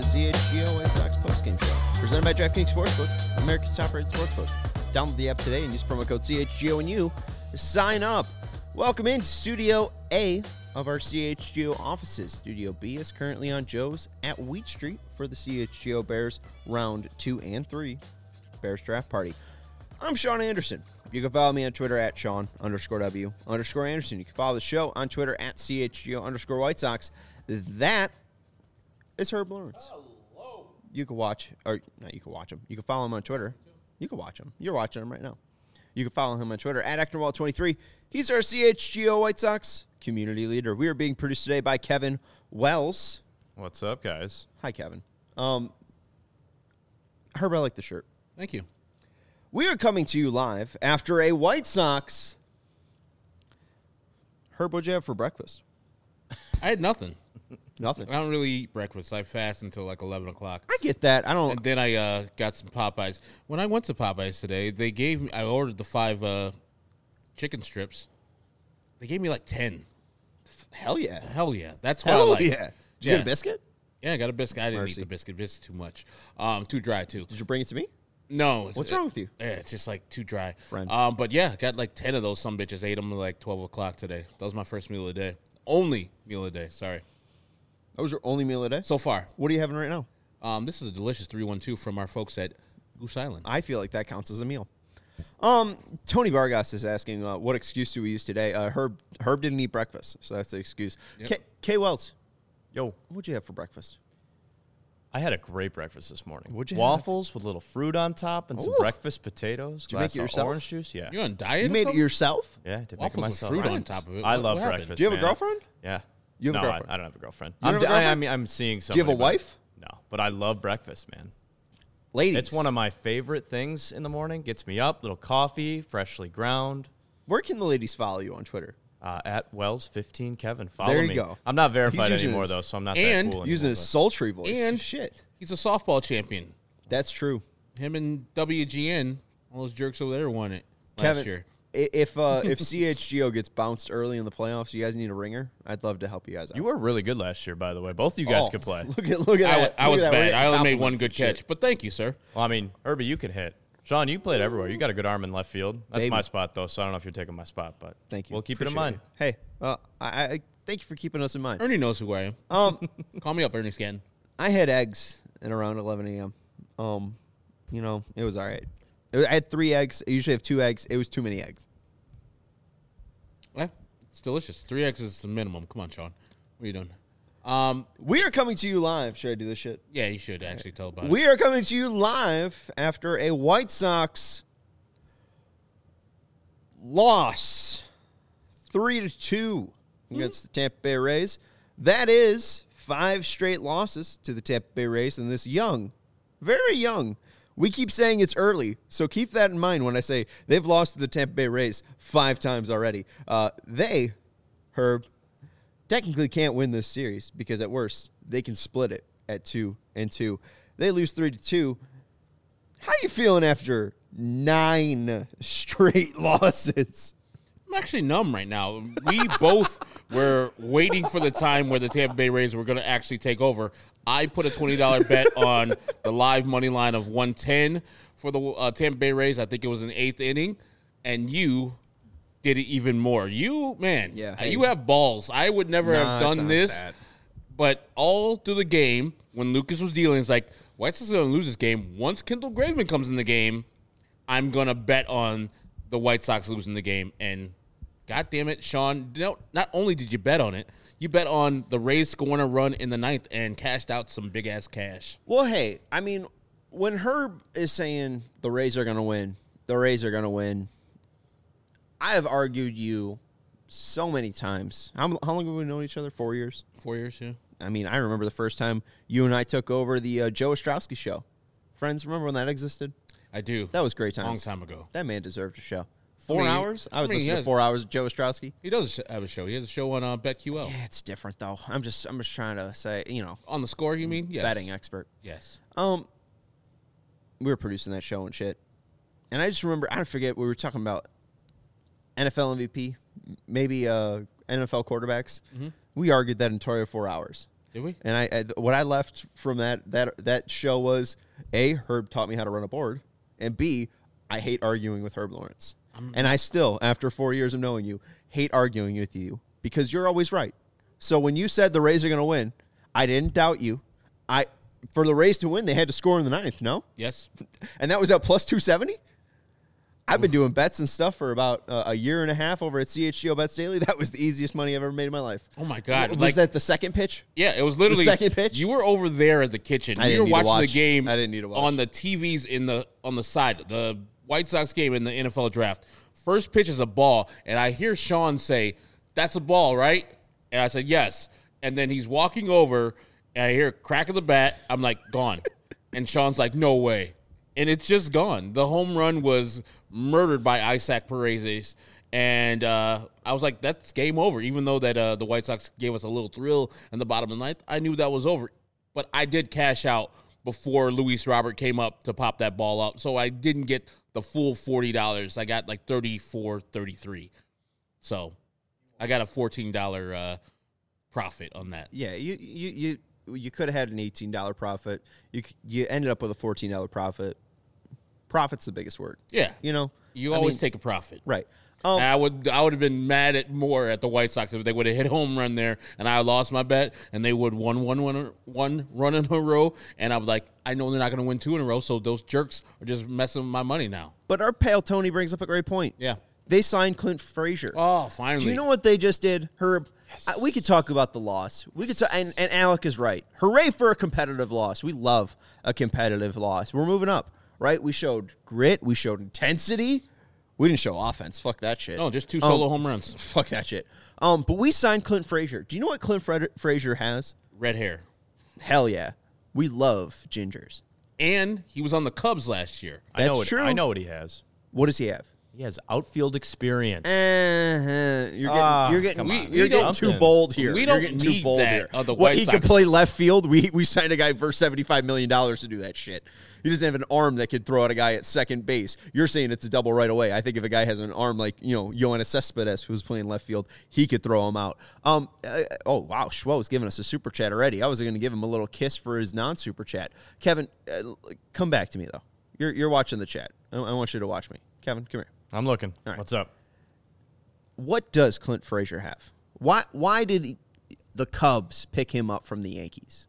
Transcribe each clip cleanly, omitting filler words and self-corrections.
CHGO White Sox postgame show, presented by DraftKings Sportsbook, America's top-rated sportsbook. Download the app today and use promo code CHGO and you sign up. Welcome into Studio A of our CHGO offices. Studio B is currently on Joe's at Wheat Street for the CHGO Bears round 2 and 3 Bears draft party. I'm Sean Anderson. You can follow me on Twitter at Sean_W_Anderson. You can follow the show on Twitter at CHGO_White Sox. That is Herb Lawrence. Hello. You can watch, or not you can watch him. You can follow him on Twitter. You can watch him. You're watching him right now. You can follow him on Twitter at Actonwall23. He's our CHGO White Sox community leader. We are being produced today by Kevin Wells. What's up, guys? Hi, Kevin. Herb, I like the shirt. Thank you. We are coming to you live after a White Sox. Herb, what'd you have for breakfast? I had nothing. Nothing. I don't really eat breakfast. I fast until like 11 o'clock. I get that. I don't. And then I got some Popeyes. When I went to Popeyes today, they gave me, I ordered the 5 chicken strips. They gave me like 10. Hell yeah. Hell yeah. That's what I Hell like. yeah. Did you get a biscuit? Yeah, I got a biscuit. I didn't Mercy. eat the biscuit. Biscuit too much. Too dry, too. Did you bring it to me? No. What's wrong with you? Yeah, it's just like too dry. Friend. But yeah, I got like 10 of those. Some bitches ate them at like 12 o'clock today. That was my first meal of the day. Only meal of the day. Sorry. That was your only meal a day? So far. What are you having right now? This is a delicious 312 from our folks at Goose Island. I feel like that counts as a meal. Tony Vargas is asking, what excuse do we use today? Herb didn't eat breakfast, so that's the excuse. Yep. K. Wells, Yo, what'd you have for breakfast? I had a great breakfast this morning. What'd you Waffles with a little fruit on top and some Ooh. breakfast potatoes. Did you make glass it of yourself? Orange juice, yeah. You on diet? You made it something? yourself? Yeah, I did make it Waffles with myself. fruit on Nice. top of it. I What love happened? breakfast. Do you have a man. girlfriend? Yeah. You have a No, girlfriend? I don't have a girlfriend. You don't have a girlfriend? I'm seeing Do you have somebody. a wife? No, but I love breakfast, man. Ladies. It's one of my favorite things in the morning. Gets me up, little coffee, freshly ground. Where can the ladies follow you on Twitter? At Wells15Kevin. Follow There you me. go. I'm not verified using anymore, his- though, so I'm not and that cool Using anymore, his sultry voice. And- Shit. He's a softball champion. That's true. Him and WGN, all those jerks over there won it last Kevin, year. if CHGO gets bounced early in the playoffs, you guys need a ringer, I'd love to help you guys out. You were really good last year, by the way. Both of you guys Oh, could play. Look at that. I was Look at that. We're bad. getting I only made one compliments good and shit. catch, but thank you, sir. Well, I mean, Herbie, you can hit. Sean, you played everywhere. You got a good arm in left field. That's Baby. my spot, though, so I don't know if you're taking my spot, but Thank you. we'll keep it in Appreciate mind. Hey, I thank you for keeping us in mind. Ernie knows who I am. Call me up, Ernie Scanton. I had eggs at around 11 a.m. It was all right. I had 3 eggs. I usually have 2 eggs. It was too many eggs. Yeah, it's delicious. 3 eggs is the minimum. Come on, Sean. What are you doing? We are coming to you live. Should I do this shit? Yeah, you should actually tell about it. We are coming to you live after a White Sox loss 3-2 against the Tampa Bay Rays. That is 5 straight losses to the Tampa Bay Rays in this young, very young. We keep saying it's early, so keep that in mind when I say they've lost to the Tampa Bay Rays 5 times already. They, Herb, technically can't win this series because at worst they can split it at 2-2. They lose 3-2. How you feeling after 9 straight losses? I'm actually numb right now. We both were waiting for the time where the Tampa Bay Rays were going to actually take over. I put a $20 bet on the live money line of 110 for the Tampa Bay Rays. I think it was in the 8th inning. And you did it even more. You, man, Yeah. you have balls. I would never have it's done not this. that. But all through the game, when Lucas was dealing, it's like, White Sox are going to lose this game. Once Kendall Graveman comes in the game, I'm going to bet on the White Sox losing the game. And God damn it, Sean, not only did you bet on it, you bet on the Rays scoring a run in the 9th and cashed out some big-ass cash. Well, hey, I mean, when Herb is saying the Rays are going to win, I have argued you so many times. How long have we known each other? 4 years? 4 years, yeah. I mean, I remember the first time you and I took over the Joe Ostrowski show. Friends, remember when that existed? I do. That was great times. Long time ago. That man deserved a show. I 4 mean, hours? I would he listen to has- 4 hours of Joe Ostrowski. He does have a show. He has a show on BetQL. Yeah, it's different, though. I'm just trying to say, On the score, you mean? Yes. betting expert. Yes. We were producing that show and shit. And I just remember, I forget, we were talking about NFL MVP, maybe NFL quarterbacks. Mm-hmm. We argued that entire 4 hours. Did we? And what I left from that show was A, Herb taught me how to run a board, and B, I hate arguing with Herb Lawrence. And I still, after 4 years of knowing you, hate arguing with you because you're always right. So when you said the Rays are going to win, I didn't doubt you. For the Rays to win, they had to score in the ninth, no? Yes. And that was at plus 270? I've been doing bets and stuff for about a year and a half over at CHGO Bets Daily. That was the easiest money I've ever made in my life. Oh, my God. Was that the second pitch? Yeah, it was literally the second pitch. You were over there at the kitchen. I We didn't were need to watching the watch. game I didn't need to watch. on the TVs on the side. The White Sox game in the NFL draft. First pitch is a ball, and I hear Sean say, "That's a ball, right?" And I said, "Yes." And then he's walking over, and I hear a crack of the bat. I'm like, "Gone." And Sean's like, "No way." And it's just gone. The home run was murdered by Isaac Paredes. And I was like, that's game over. Even though that the White Sox gave us a little thrill in the bottom of the ninth, I knew that was over. But I did cash out before Luis Robert came up to pop that ball up. So I didn't get the full $40. I got like $34, $33. So I got a $14 profit on that. Yeah, you could have had an $18 profit. You ended up with a $14 profit. Profit's the biggest word. Yeah. You always take a profit. Right. And I would have been mad at the White Sox if they would have hit home run there and I lost my bet and they would won one run in a row and I was like, I know they're not going to win two in a row, so those jerks are just messing with my money now. But our pal Tony brings up a great point. Yeah. They signed Clint Frazier. Oh, finally. Do you know what they just did, Herb? Yes. We could talk about the loss. We could, and Alec is right. Hooray for a competitive loss. We love a competitive loss. We're moving up, right? We showed grit. We showed intensity. We didn't show offense. Fuck that shit. No, just two solo home runs. Fuck that shit. But we signed Clint Frazier. Do you know what Clint Frazier has? Red hair. Hell yeah. We love gingers. And he was on the Cubs last year. That's true. I know what he has. What does he have? He has outfield experience. You're getting too bold here. We don't You're getting need too bold that here. of the What, White he Sox. could play left field? We signed a guy for $75 million to do that shit. He doesn't have an arm that could throw at a guy at second base. You're saying it's a double right away. I think if a guy has an arm like, Yoenis Cespedes, who's playing left field, he could throw him out. Oh, wow. Schwo's giving us a super chat already. I was going to give him a little kiss for his non-super chat. Kevin, come back to me, though. You're watching the chat. I want you to watch me. Kevin, come here. I'm looking. All right. What's up? What does Clint Frazier have? Why did the Cubs pick him up from the Yankees?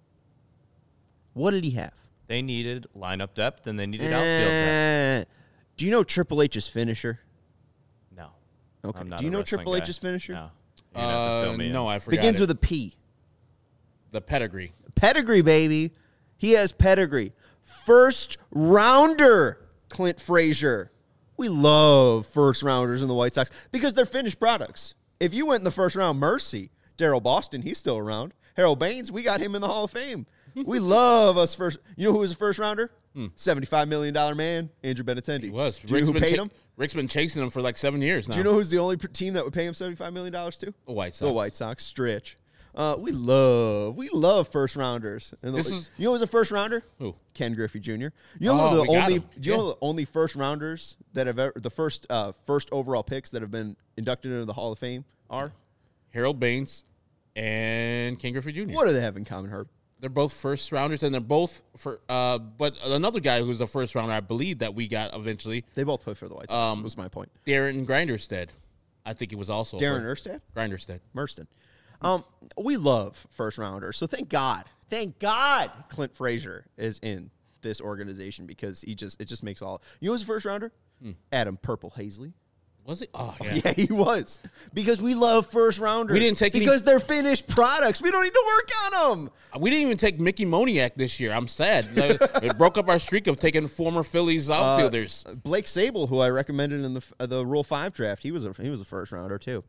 What did he have? They needed lineup depth and they needed outfield depth. Do you know Triple H's finisher? No. Okay. I'm not Do you a know wrestling Triple guy. H's finisher? No. You're gonna have to fill me in. No, I forgot. Begins it. with a P. The pedigree. Pedigree, baby. He has pedigree. First rounder, Clint Frazier. We love first rounders in the White Sox because they're finished products. If you went in the first round, mercy. Darryl Boston, he's still around. Harold Baines, we got him in the Hall of Fame. We love us first. You know who was a first rounder? $75 million man, Andrew Benintendi. He was. Do you know who paid him? Rick's been chasing him for like 7 years now. Do you know who's the only team that would pay him $75 million to? The White Sox. The White Sox. Stretch. We love first rounders. And you know who's a first rounder? Who? Ken Griffey Jr. You know who we got him. Do you know the only first rounders that have ever, the first overall picks that have been inducted into the Hall of Fame are? Harold Baines and Ken Griffey Jr. What do they have in common, Herb? They're both first rounders, and they're both for. But another guy who's a first rounder, I believe that we got eventually, They both play for the White Sox. Was my point. Darren Grinderstead. I think he was also Darren Erstad? Grinderstead. Merston. We love first rounders, so thank God Clint Frazier is in this organization because it just makes all. You know who's a first rounder? Adam Purple Hazley. Was he? Oh, yeah. Yeah, he was. Because we love first rounders. We didn't take because they're finished products. We don't need to work on them. We didn't even take Mickey Moniak this year. I'm sad. It broke up our streak of taking former Phillies outfielders. Blake Sable, who I recommended in the Rule 5 draft, he was a first rounder too.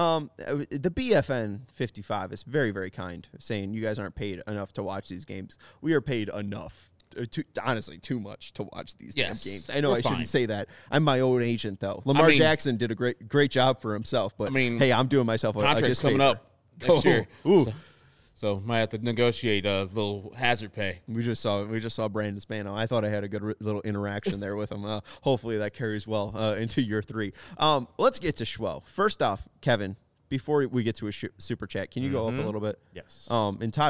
The BFN 55 is very, very kind, saying you guys aren't paid enough to watch these games. We are paid enough. Honestly, too much to watch these damn games. I know I shouldn't say that. I'm my own agent, though. Lamar Jackson did a great job for himself, but hey, I'm doing myself a contract's coming favor. up next year. Ooh. So might have to negotiate a little hazard pay. We just saw Brandon Spano. I thought I had a good little interaction there with him. Hopefully that carries well into year 3. Let's get to Schwo. First off, Kevin, before we get to a super chat, can you go up a little bit? Yes. And Todd,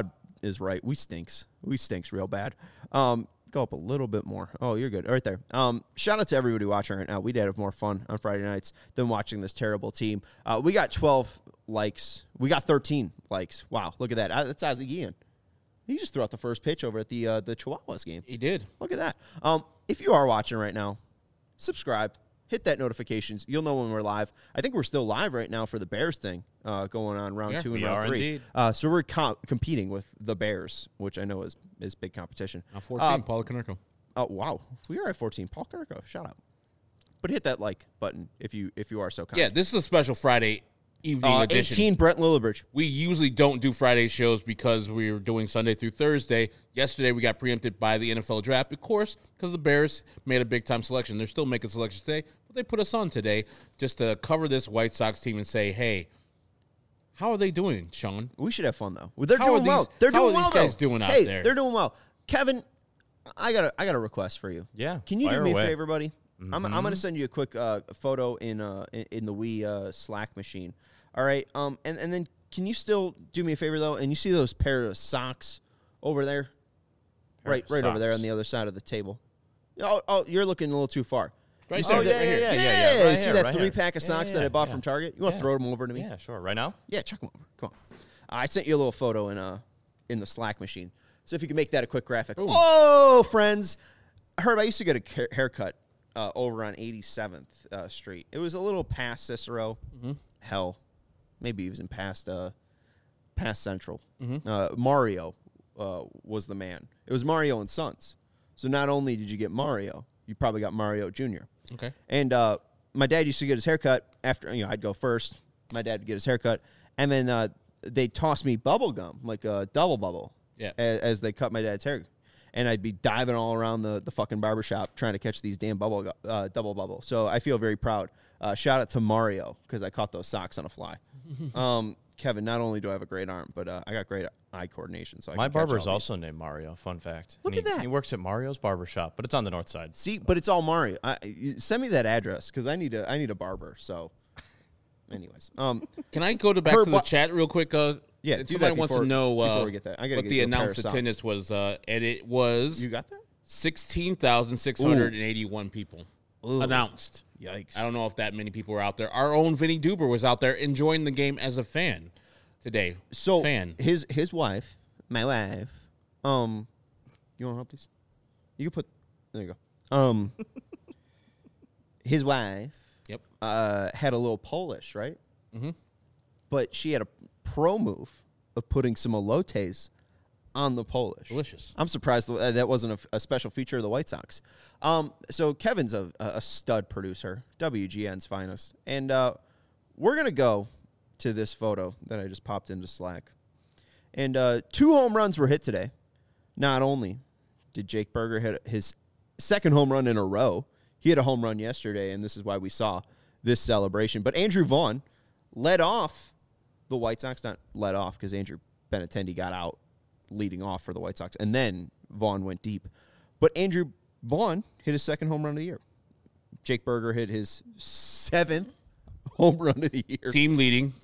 is right. We stinks real bad. Go up a little bit more. Oh, you're good. Right there. Shout out to everybody watching right now. We did have more fun on Friday nights than watching this terrible team. We got 12 likes. We got 13 likes. Wow, look at that. That's Ozzie Guillen. He just threw out the first pitch over at the Chihuahuas game. He did. Look at that. If you are watching right now, subscribe. Hit that notifications. You'll know when we're live. I think we're still live right now for the Bears thing going on round 2 and round 3. So we're competing with the Bears, which I know is big competition. 14, Paulo Konerko. Oh, wow. We are at 14. Paul Konerko, shout out. But hit that like button if you are so kind. Yeah, this is a special Friday evening edition. 18, Brent Lillibridge. We usually don't do Friday shows because we're doing Sunday through Thursday. Yesterday, we got preempted by the NFL draft, of course, because the Bears made a big-time selection. They're still making selections today, but they put us on today just to cover this White Sox team and say, hey, how are they doing, Sean? We should have fun, though. They're doing well. They're doing well, though. How are these guys doing out there? They're doing well. Kevin, I got a request for you. Yeah. Can you do me away. a favor, buddy? I'm going to send you a quick photo in the Wii Slack machine. All right. And then can you still do me a favor, though? And you see those pair of socks over there? Right over there on the other side of the table. Oh, you're looking a little too far. Right there. Yeah. You see that 3-pack of socks that I bought from Target? You want to throw them over to me? Yeah, sure. Right now? Yeah, chuck them over. Come on. I sent you a little photo in the Slack machine. So if you can make that a quick graphic. Ooh. Oh, friends. Herb, I used to get a haircut over on 87th Street. It was a little past Cicero. Mm-hmm. Hell, maybe even past Central. Mm-hmm. Mario was the man. It was Mario and Sons. So not only did you get Mario, you probably got Mario Jr. Okay. And my dad used to get his haircut after, I'd go first. My dad would get his haircut. And then they'd toss me bubble gum, like a double bubble, as they cut my dad's hair. And I'd be diving all around the fucking barbershop trying to catch these damn double bubble. So I feel very proud. Shout out to Mario because I caught those socks on a fly. Kevin, not only do I have a great arm, but I got great eye coordination. So my barber is also named Mario. Fun fact. Look at that. He works at Mario's barbershop, but it's on the north side. See, but it's all Mario. Send me that address because I need a barber. So, anyways, can I go back to the chat real quick? Yeah, somebody wants to know before we get that. what the announced attendance was, and it was you got that 16,681 people announced. Yikes! I don't know if that many people were out there. Our own Vinny Duber was out there enjoying the game as a fan today. So his wife, my wife. You want to help these? You can put. There you go. His wife. Yep. Had a little Polish, right? Mm-hmm. But she had a pro move of putting some elotes on the Polish. Delicious. I'm surprised that wasn't a special feature of the White Sox. So Kevin's a stud producer, WGN's finest. And we're going to go to this photo that I just popped into Slack. And 2 home runs were hit today. Not only did Jake Berger hit his second home run in a row, he hit a home run yesterday, and this is why we saw this celebration. But Andrew Vaughn led off the White Sox, not led off because Andrew Benintendi got out leading off for the White Sox, and then Vaughn went deep. But Andrew Vaughn hit his second home run of the year. Jake Berger hit his 7th home run of the year. Team leading.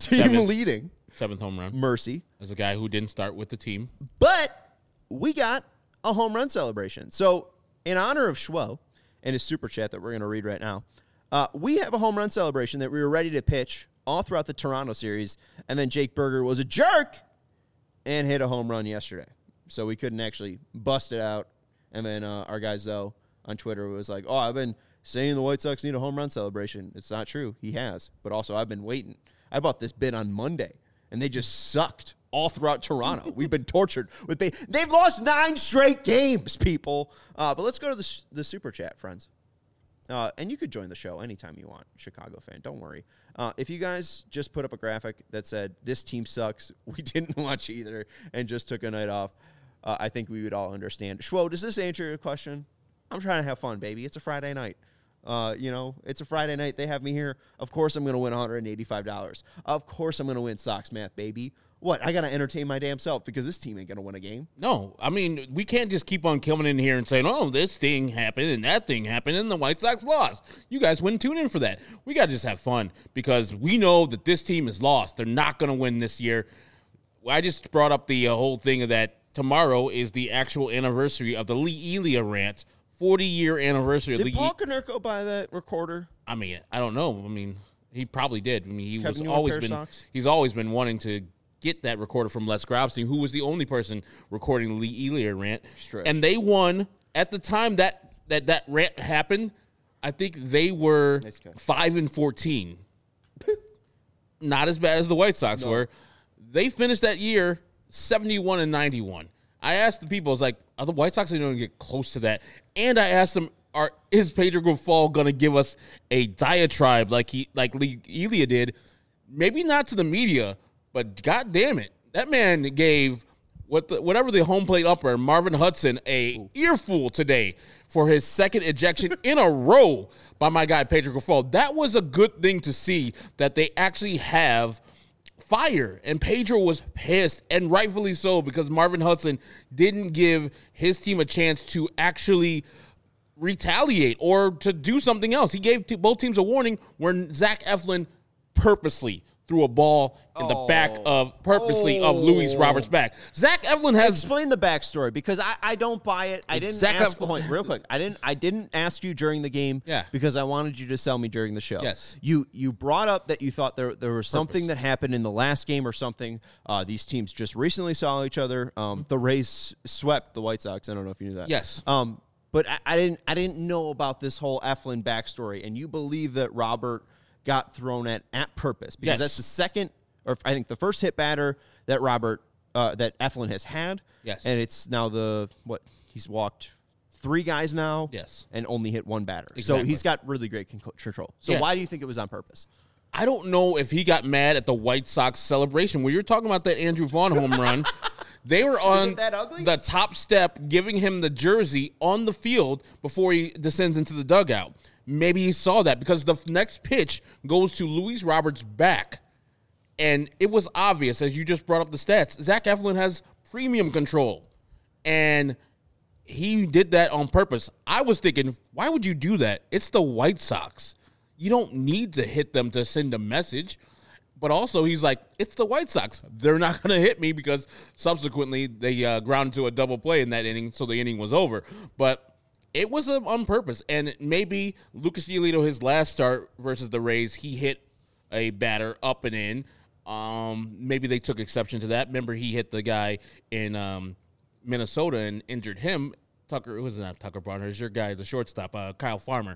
7th home run. Mercy. As a guy who didn't start with the team. But we got a home run celebration. So in honor of Schwo and his super chat that we're going to read right now, we have a home run celebration that we were ready to pitch all throughout the Toronto series, and then Jake Berger was a jerk and hit a home run yesterday. So we couldn't actually bust it out. And then our guy Zoe on Twitter was like, I've been saying the White Sox need a home run celebration. It's not true. He has. But also, I've been waiting. I bought this bid on Monday, and they just sucked all throughout Toronto. We've been tortured. They've lost 9 straight games, people. But let's go to the super chat, friends. And you could join the show anytime you want, Chicago fan. Don't worry. If you guys just put up a graphic that said, this team sucks, we didn't watch either, and just took a night off, I think we would all understand. Schwo, does this answer your question? I'm trying to have fun, baby. It's a Friday night. It's a Friday night. They have me here. Of course I'm going to win $185. Of course I'm going to win Sox Math, baby. What? I got to entertain my damn self because this team ain't going to win a game. No, I mean, we can't just keep on coming in here and saying, this thing happened and that thing happened and the White Sox lost. You guys wouldn't tune in for that. We got to just have fun because we know that this team is lost. They're not going to win this year. I just brought up the whole thing of that tomorrow is the actual anniversary of the Lee Elia rant, 40-year anniversary of Did Lee. Paul Konerko buy that recorder? I mean, I don't know. I mean, he probably did. I mean, Kevin, you want a pair of socks? he's always been wanting to get that recorder from Les Grobstein, who was the only person recording the Lee Elia rant. Stretch. And they won at the time that rant happened. I think they were 5-14. Not as bad as the White Sox were. They finished that year 71-91. I asked the people, I was like, are the White Sox going to get close to that? And I asked them, is Pedro Grifol going to give us a diatribe like Lee Elia did? Maybe not to the media, but God damn it, that man gave whatever the home plate umpire, Marvin Hudson, a earful today for his second ejection in a row by my guy Pedro Grifol. That was a good thing to see, that they actually have fire. And Pedro was pissed, and rightfully so, because Marvin Hudson didn't give his team a chance to actually retaliate or to do something else. He gave both teams a warning where Zach Eflin purposely threw a ball in the back of Luis Roberts' back. Zach Eflin has explain the backstory, because I don't buy it. I didn't ask real quick. I didn't ask you during the game because I wanted you to sell me during the show. Yes. You brought up that you thought there was something that happened in the last game or something. These teams just recently saw each other. The Rays swept the White Sox. I don't know if you knew that. Yes. But I didn't know about this whole Eflin backstory, and you believe that Robert got thrown at purpose, because that's the second, or I think the first hit batter that that Eflin has had. Yes. And it's now he's walked 3 guys now. Yes. And only hit 1 batter. Exactly. So he's got really great control. So why do you think it was on purpose? I don't know if he got mad at the White Sox celebration. When you're talking about that Andrew Vaughn home run, they were on the top step giving him the jersey on the field before he descends into the dugout. Maybe he saw that, because the next pitch goes to Luis Roberts' back. And it was obvious, as you just brought up the stats, Zach Eflin has premium control. And he did that on purpose. I was thinking, why would you do that? It's the White Sox. You don't need to hit them to send a message. But also, he's like, it's the White Sox. They're not going to hit me, because subsequently they ground to a double play in that inning, so the inning was over. But it was on purpose. And maybe Lucas Giolito, his last start versus the Rays, he hit a batter up and in. Maybe they took exception to that. Remember, he hit the guy in Minnesota and injured him. Tucker, it was not Tucker Barnhart, your guy, the shortstop, Kyle Farmer.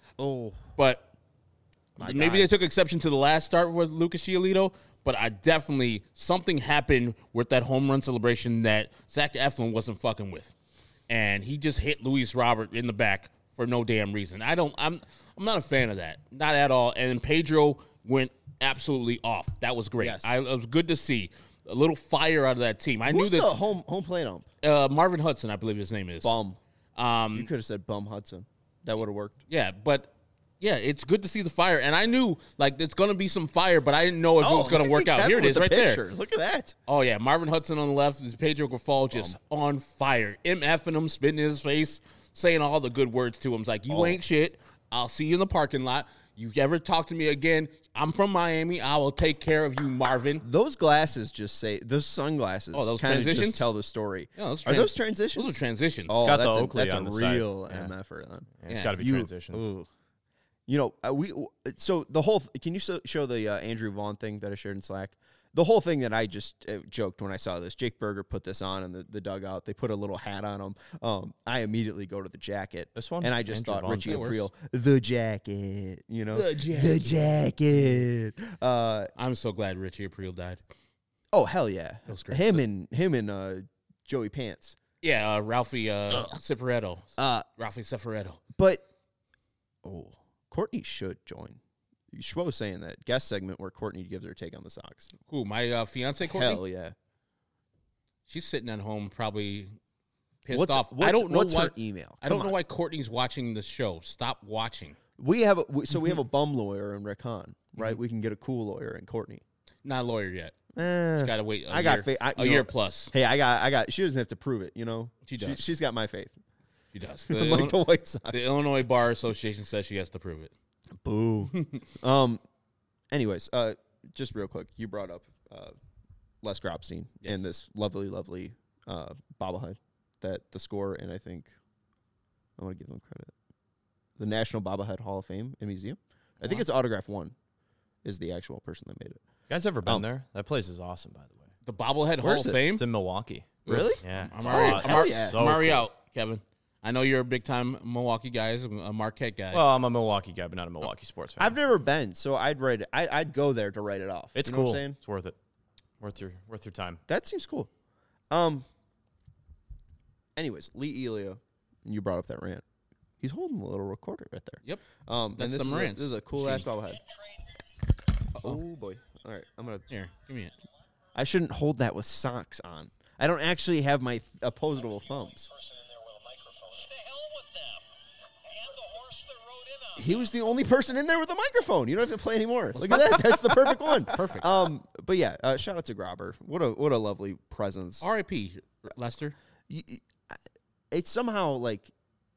But maybe they took exception to the last start with Lucas Giolito. But something happened with that home run celebration that Zach Eflin wasn't fucking with. And he just hit Luis Robert in the back for no damn reason. I'm not a fan of that. Not at all. And Pedro went absolutely off. That was great. Yes. It was good to see a little fire out of that team. Who's the home plate ump? Marvin Hudson, I believe his name is. Bum. You could have said Bum Hudson. That would have worked. Yeah, but yeah, it's good to see the fire. And I knew, it's going to be some fire, but I didn't know if it was going to work out. Here it is right there. Look at that. Oh, yeah. Marvin Hudson on the left. Pedro Grifol just on fire. MFing him, spitting in his face, saying all the good words to him. It's like, you ain't shit. I'll see you in the parking lot. You ever talk to me again, I'm from Miami. I will take care of you, Marvin. Those glasses those sunglasses those kind of transitions? just tell the story. Yeah, Are those transitions? Those are transitions. Oh, got that's the a Oakley that's on a the side. real Yeah. MFer then. It's got to be transitions. You know, so the whole. Can you show the Andrew Vaughn thing that I shared in Slack? The whole thing that I just joked when I saw this. Jake Berger put this on in the dugout. They put a little hat on him. I immediately go to the jacket. This one? And I just Andrew thought Vaughn Richie thing Aprile, the jacket. You know, the jacket. I'm so glad Richie Aprile died. Oh hell yeah! That was great. Him and Joey Pants. Yeah, Ralphie Cifaretto. Ralphie Cifaretto. But Courtney should join. Schwo was saying that guest segment where Courtney gives her take on the Sox. Who, my fiance Courtney? Hell yeah. She's sitting at home probably pissed off. What's her email? I don't know why Courtney's watching the show. Stop watching. We have a bum lawyer in Rick Hahn, right? We can get a cool lawyer in Courtney. Not a lawyer yet. She's got to wait a year plus. Hey, I got. She doesn't have to prove it. You know, she does. She's got my faith. She does. Like the White Sox. The Illinois Bar Association says she has to prove it. Boo. Anyways, just real quick, you brought up Les Grobstein and this lovely bobblehead that the score, and I think I want to give them credit. The National Bobblehead Hall of Fame and Museum. I think it's Autograph One is the actual person that made it. You guys ever been there? That place is awesome, by the way. The Bobblehead Hall Where's of it? Fame? It's in Milwaukee. Really? Yeah. I'm already, So I'm already cool. out, Kevin. I know you're a big-time Milwaukee guy, a Marquette guy. Well, I'm a Milwaukee guy, but not a Milwaukee sports fan. I've never been, so I'd write it. I'd go there to write it off. It's You know cool. what I'm saying? It's worth it. Worth your time. That seems cool. Anyways, Lee Elia, you brought up that rant. He's holding a little recorder right there. Yep. And That's this the is Morantz this is a cool ass bobblehead. Oh boy! All right, I'm gonna. Here, give me it. I shouldn't hold that with socks on. I don't actually have my opposable thumbs. He was the only person in there with a microphone. You don't have to play anymore. Look at that. That's the perfect one. Perfect. But yeah, shout out to Grobber. What a lovely presence. R.I.P. Lester. It's somehow like,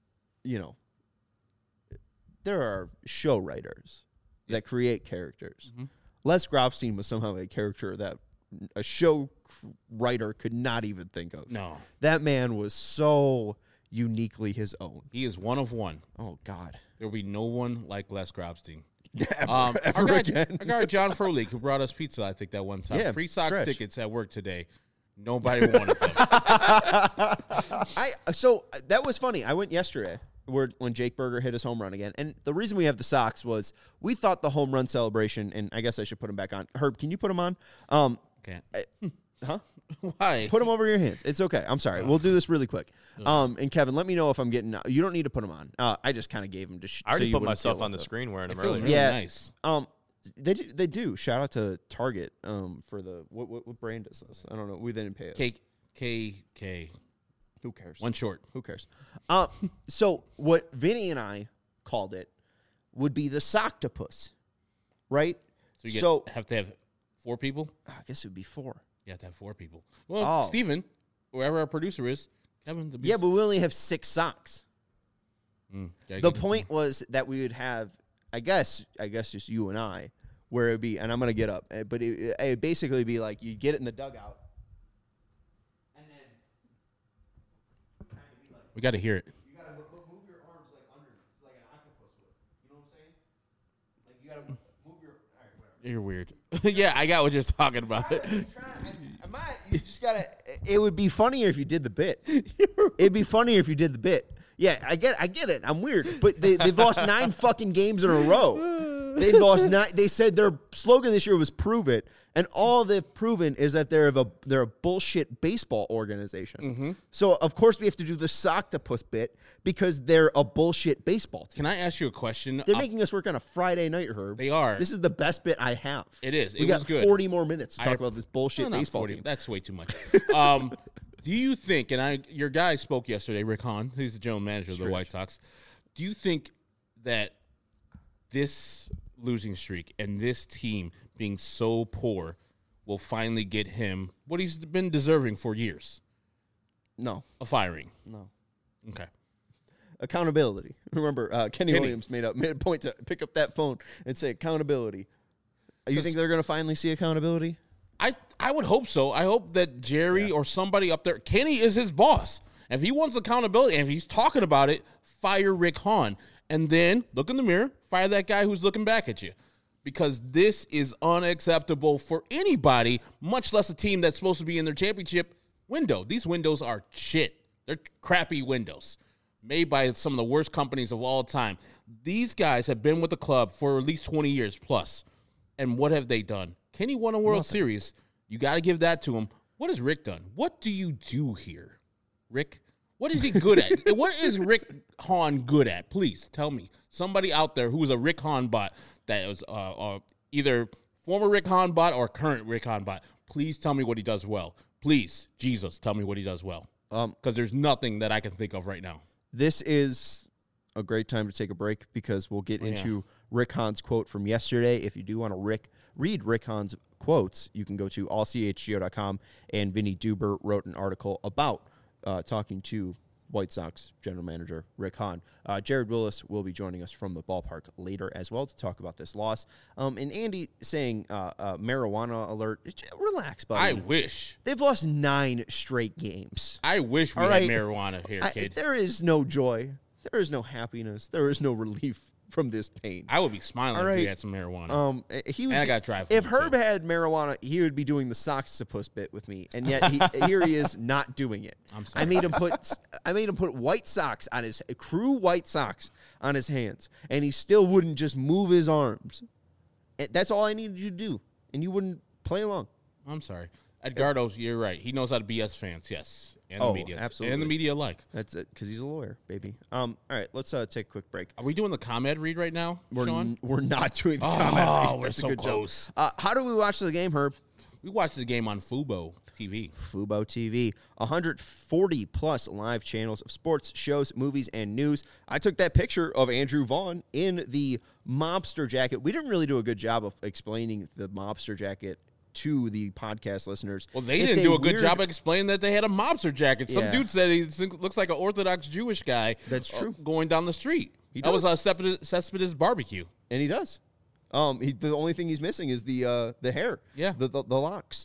there are show writers that create characters. Mm-hmm. Les Grobstein was somehow a character that a show writer could not even think of. No. That man was so uniquely his own. He is one of one. Oh, God. There will be no one like Les Grobstein. Ever our again. guy John Froelich, who brought us pizza, I think that one time. Yeah, Free Sox stretch. tickets at work today. Nobody wanted them. So that was funny. I went yesterday when Jake Berger hit his home run again. And the reason we have the Sox was we thought the home run celebration, and I guess I should put him back on. Herb, can you put him on? Can't. Huh? Why? Put him over your hands. It's okay. I'm sorry. We'll do this really quick. And Kevin, let me know if I'm getting. You don't need to put him on. I just kind of gave him to. I already so you put wouldn't myself feel on the left out. screen wearing I them feel earlier. really Yeah. nice. They do. Shout out to Target. For the what brand is this? I don't know. We didn't pay us. K. Who cares? One short. Who cares? So what Vinny and I called it would be the Soctopus, right? So you have to have 4 people? I guess it would be 4. You have to have 4 people. Well, Steven, whoever our producer is, Kevin. Yeah, but we only have 6 socks. Okay, The point was that we would have, I guess just you and I, where it would be, and I'm going to get up, but it would basically be like you get it in the dugout, and then kind of be like, we got to hear it. you got to move your arms like underneath, like an octopus would. You know what I'm saying? Like you got to move your, all right, whatever. You're weird. Yeah, I got what you're talking about. You just gotta. It would be funnier if you did the bit. It'd be funnier if you did the bit. Yeah, I get it. I'm weird, but they've lost 9 fucking games in a row. They lost 9. They said their slogan this year was "Prove it," and all they've proven is that they're a bullshit baseball organization. So of course we have to do the Soctopus bit because they're a bullshit baseball team. Can I ask you a question? They're making us work on a Friday night, Herb. They are. This is the best bit I have. It is. We It got was good. 40 more minutes to talk about this bullshit No, not baseball 40. team. That's way too much. Do you think, and your guy spoke yesterday, Rick Hahn, who's the general manager of the White Sox, do you think that this losing streak and this team being so poor will finally get him what he's been deserving for years? No. A firing. No. Okay. Accountability. Remember, Kenny Williams made a point to pick up that phone and say accountability. You think they're going to finally see accountability? I would hope so. I hope that Jerry or somebody up there, Kenny is his boss. If he wants accountability, and if he's talking about it, fire Rick Hahn. And then look in the mirror, fire that guy who's looking back at you. Because this is unacceptable for anybody, much less a team that's supposed to be in their championship window. These windows are shit. They're crappy windows made by some of the worst companies of all time. These guys have been with the club for at least 20 years plus. And what have they done? Kenny won a World Series. You got to give that to him. What has Rick done? What do you do here, Rick? What is he good at? What is Rick Hahn good at? Please tell me. Somebody out there who is a Rick Hahn bot that was either former Rick Hahn bot or current Rick Hahn bot. Please tell me what he does well. Please, Jesus, tell me what he does well. Because there's nothing that I can think of right now. This is a great time to take a break because we'll get into Rick Hahn's quote from yesterday. If you do want to read Rick Hahn's quotes, you can go to allchgo.com, and Vinny Duber wrote an article about talking to White Sox general manager Rick Hahn. Jared Willis will be joining us from the ballpark later as well to talk about this loss. And Andy saying marijuana alert. Relax, buddy. I wish. They've lost 9 straight games. I wish we All had right. marijuana here, kid. There is no joy. There is no happiness. There is no relief from this pain. I would be smiling All if we right. had some marijuana. He would And I be- gotta drive If home, Herb too. had marijuana, he would be doing the socks to puss bit with me, and yet here he is not doing it. I'm sorry. I made him put white socks on his crew white socks on his hands, and he still wouldn't just move his arms. And that's all I needed you to do, and you wouldn't play along. I'm sorry. Edgardo, you're right. He knows how to BS fans, yes. And Oh, the media. absolutely. And the media alike. That's it, because he's a lawyer, baby. All right, let's take a quick break. Are we doing the ComEd read right now, Sean? We're not doing the Oh, comment. we're That's a so good joke. close. How do we watch the game, Herb? We watched the game on Fubo TV. Fubo TV, 140 plus live channels of sports, shows, movies, and news. I took that picture of Andrew Vaughn in the mobster jacket. We didn't really do a good job of explaining the mobster jacket to the podcast listeners. Well, they It's didn't do a good weird- job explaining that they had a mobster jacket. Some Yeah. dude said he looks like an Orthodox Jewish guy. That's true. Going down the street. He That was does. Cespedes barbecue. And he does. The only thing he's missing is the hair. Yeah. The locks.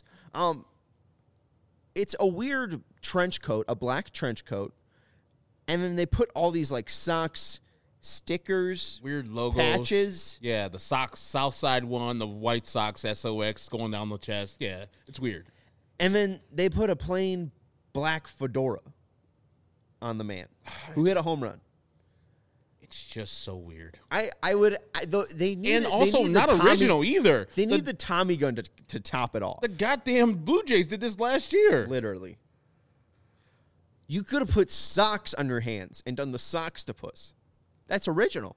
It's a weird trench coat, a black trench coat, and then they put all these like socks, stickers, Weird logos. patches. Yeah, the Sox Southside one, the White Sox SOX going down the chest. Yeah, it's weird. And then they put a plain black fedora on the man who hit a home run. It's just so weird. They need And also not original either. They need the Tommy gun to top it off. The goddamn Blue Jays did this last year. Literally. You could have put socks on your hands and done the socks to puss. That's original.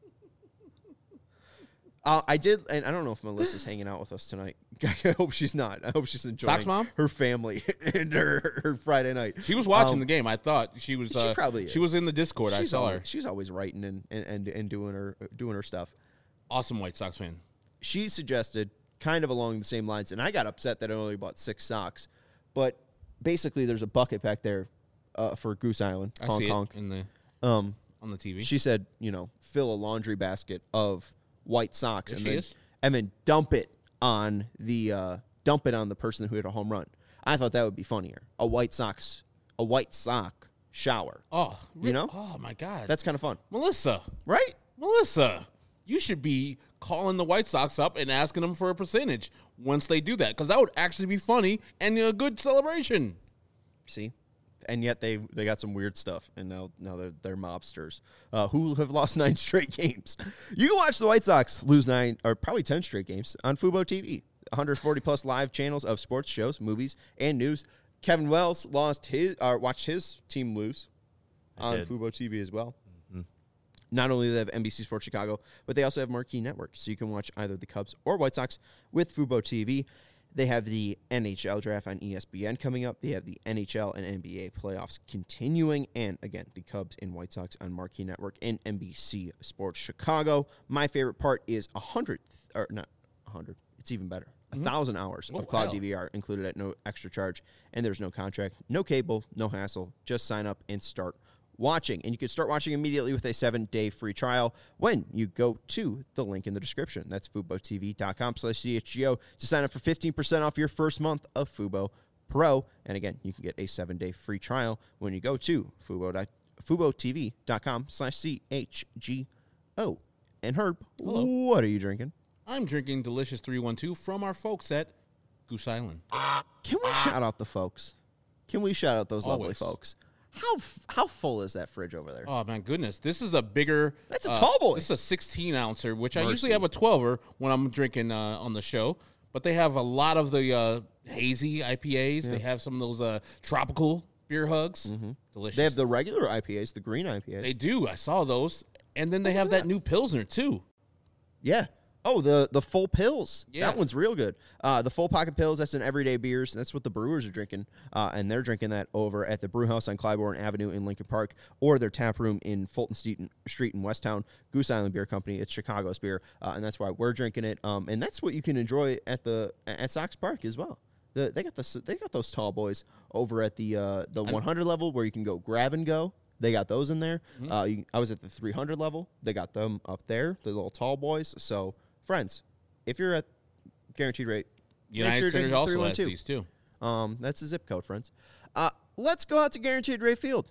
I did, and I don't know if Melissa's hanging out with us tonight. I hope she's not. I hope she's enjoying Sox Mom? her family and her Friday night. She was watching the game. I thought she was. She probably is. She was in the Discord. I saw her. She's always writing and doing her stuff. Awesome White Sox fan. She suggested, kind of along the same lines, and I got upset that I only bought 6 socks. But basically, there's a bucket back there for Goose Island, I honk see honk. it in the Um, on the TV. She said, fill a laundry basket of white socks There and she then is. and then dump it on the person who hit a home run. I thought that would be funnier. A white sock shower. Oh, You know? Oh my God. That's kind of fun, Melissa. right? Melissa, you should be calling the White Sox up and asking them for a percentage once they do that, because that would actually be funny and a good celebration. See, and yet they got some weird stuff, and now they're mobsters who have lost 9 straight games. You can watch the White Sox lose 9 or probably 10 straight games on Fubo TV. 140 plus live channels of sports, shows, movies, and news. Kevin Wells watched his team lose on did. Fubo TV as well. Not only do they have NBC Sports Chicago, but they also have Marquee Network, so you can watch either the Cubs or White Sox with Fubo TV. They have the NHL draft on ESPN coming up. They have the NHL and NBA playoffs continuing. And again, the Cubs and White Sox on Marquee Network and NBC Sports Chicago. My favorite part is 100, or not 100, it's even better. 1,000 hours of cloud wow. DVR included at no extra charge. And there's no contract, no cable, no hassle. Just sign up and start watching. And you can start watching immediately with a 7-day free trial when you go to the link in the description. That's FuboTV.com/CHGO to sign up for 15% off your first month of Fubo Pro. And again, you can get a 7-day free trial when you go to FuboTV.com/CHGO. And Herb, Hello. what are you drinking? I'm drinking Delicious 312 from our folks at Goose Island. Can we shout out the folks? Can we shout out those lovely Always. folks? How full is that fridge over there? Oh, my goodness. This is a bigger... That's a tall boy. This is a 16-ouncer, which I Mercy. usually have a 12er when I'm drinking on the show. But they have a lot of the hazy IPAs. They have some of those tropical beer hugs. Delicious. They have the regular IPAs, the green IPAs. They do. I saw those. And then they have that new Pilsner, too. Yeah. Oh, the full pills. Yeah. That one's real good. The full pocket pills, that's an everyday beers. That's what the brewers are drinking. And they're drinking that over at the brew house on Clybourne Avenue in Lincoln Park or their tap room in Fulton Street in Westtown. Goose Island Beer Company. It's Chicago's beer. And that's why we're drinking it. And that's what you can enjoy at Sox Park as well. They got those tall boys over at the 100 level where you can go grab and go. They got those in there. I was at the 300 level. They got them up there, the little tall boys. So, friends, if you're at Guaranteed Rate, United Center also has these too. That's the zip code, friends. Let's go out to Guaranteed Rate Field.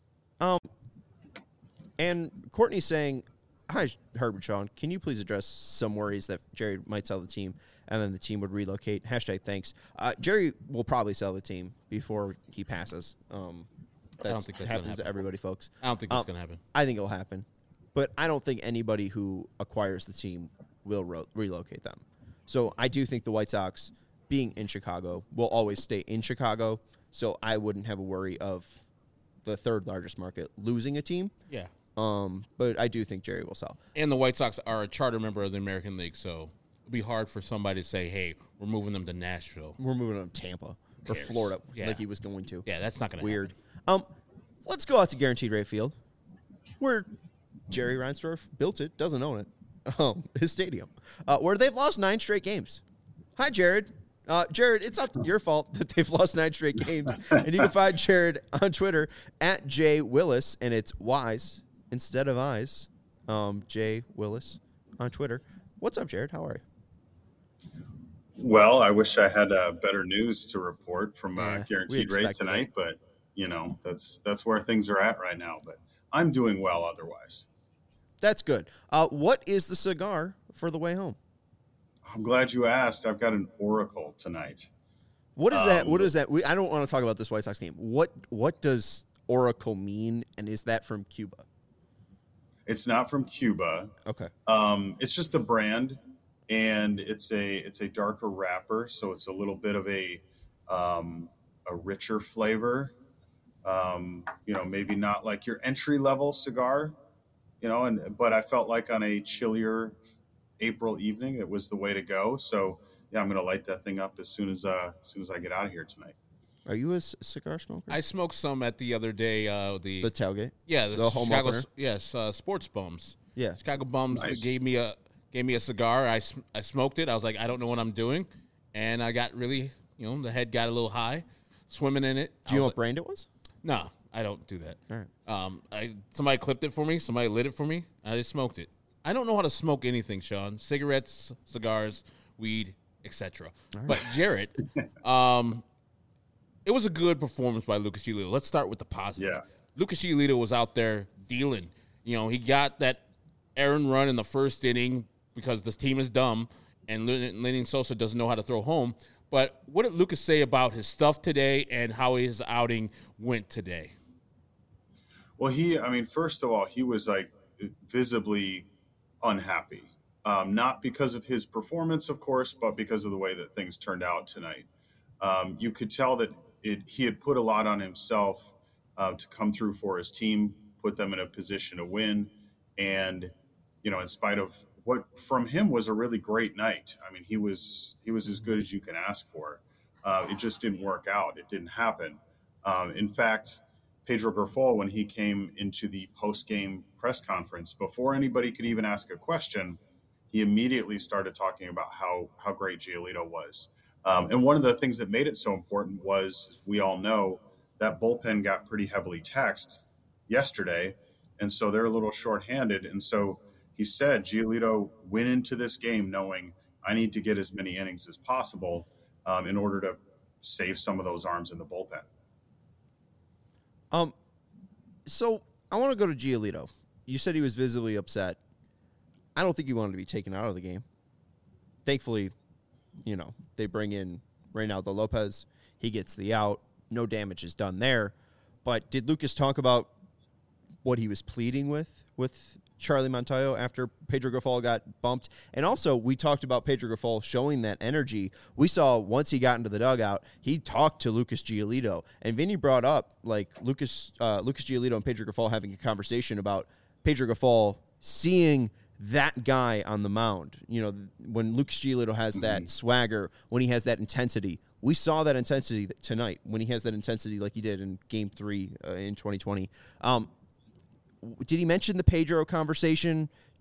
And Courtney's saying, "Hi, Herbert Sean. Can you please address some worries that Jerry might sell the team and then the team would relocate?" #thanks. Jerry will probably sell the team before he passes. I don't think that's going to happen. To everybody, folks. I don't think that's going to happen. I think it'll happen. But I don't think anybody who acquires the team will relocate them. So I do think the White Sox, being in Chicago, will always stay in Chicago. So I wouldn't have a worry of the third largest market losing a team. Yeah. But I do think Jerry will sell. And the White Sox are a charter member of the American League, so it'd be hard for somebody to say, "Hey, we're moving them to Nashville. We're moving them to Tampa or Florida," like he was going to. Yeah, that's not going to Weird. happen. Let's go out to Guaranteed Rate Field, where Jerry Reinsdorf built it, doesn't own it, his stadium, where they've lost 9 straight games. Hi, Jared. Jared, it's not your fault that they've lost 9 straight games. And you can find Jared on Twitter at J Willis, and it's Y's instead of I's. J Willis on Twitter. What's up, Jared? How are you? Well, I wish I had better news to report from Guaranteed Rate tonight, but that's where things are at right now. But I'm doing well otherwise. That's good. What is the cigar for the way home? I'm glad you asked. I've got an Oracle tonight. What is that? What is that? I don't want to talk about this White Sox game. What does Oracle mean, and is that from Cuba? It's not from Cuba. Okay. It's just the brand, and it's a darker wrapper, so it's a little bit of a richer flavor. Maybe not like your entry level cigar, but I felt like on a chillier April evening, it was the way to go. So yeah, I'm going to light that thing up as soon as I get out of here tonight. Are you a cigar smoker? I smoked some at the other day. The tailgate. Yeah, the home Chicago. opener? Yes, Sports Bums. Yeah, Chicago Bums Nice. gave me a cigar. I smoked it. I was like, I don't know what I'm doing, and I got really, the head got a little high, swimming in it. Do you know what brand it was? No, I don't do that. All right. Somebody clipped it for me. Somebody lit it for me. I just smoked it. I don't know how to smoke anything, Sean. Cigarettes, cigars, weed, etc. Right. But Jarrett, it was a good performance by Lucas Giolito. Let's start with the positive. Yeah. Lucas Giolito was out there dealing. He got that errand run in the first inning because this team is dumb and Lenny Sosa doesn't know how to throw home. But what did Lucas say about his stuff today and how his outing went today? Well, first of all, he was like visibly unhappy. Not because of his performance, of course, but because of the way that things turned out tonight. You could tell that he had put a lot on himself to come through for his team, put them in a position to win. And, in spite of what from him was a really great night. I mean, he was as good as you can ask for. It just didn't work out. It didn't happen. In fact, Pedro Grifol, when he came into the post-game press conference, before anybody could even ask a question, he immediately started talking about how great Giolito was. And one of the things that made it so important was, we all know, that bullpen got pretty heavily taxed yesterday, and so they're a little shorthanded. And so he said Giolito went into this game knowing, I need to get as many innings as possible in order to save some of those arms in the bullpen. So I want to go to Giolito. You said he was visibly upset. I don't think he wanted to be taken out of the game. Thankfully, they bring in Reynaldo Lopez. He gets the out. No damage is done there. But did Lucas talk about what he was pleading with Charlie Montoyo after Pedro Grifol got bumped? And also, we talked about Pedro Grifol showing that energy. We saw once he got into the dugout, he talked to Lucas Giolito. And Vinny brought up, Lucas Giolito and Pedro Grifol having a conversation about Pedro Grifol seeing that guy on the mound. When Lucas Giolito has that swagger, when he has that intensity. We saw that intensity tonight when he has that intensity like he did in Game 3 in 2020. Did he mention the Pedro conversation?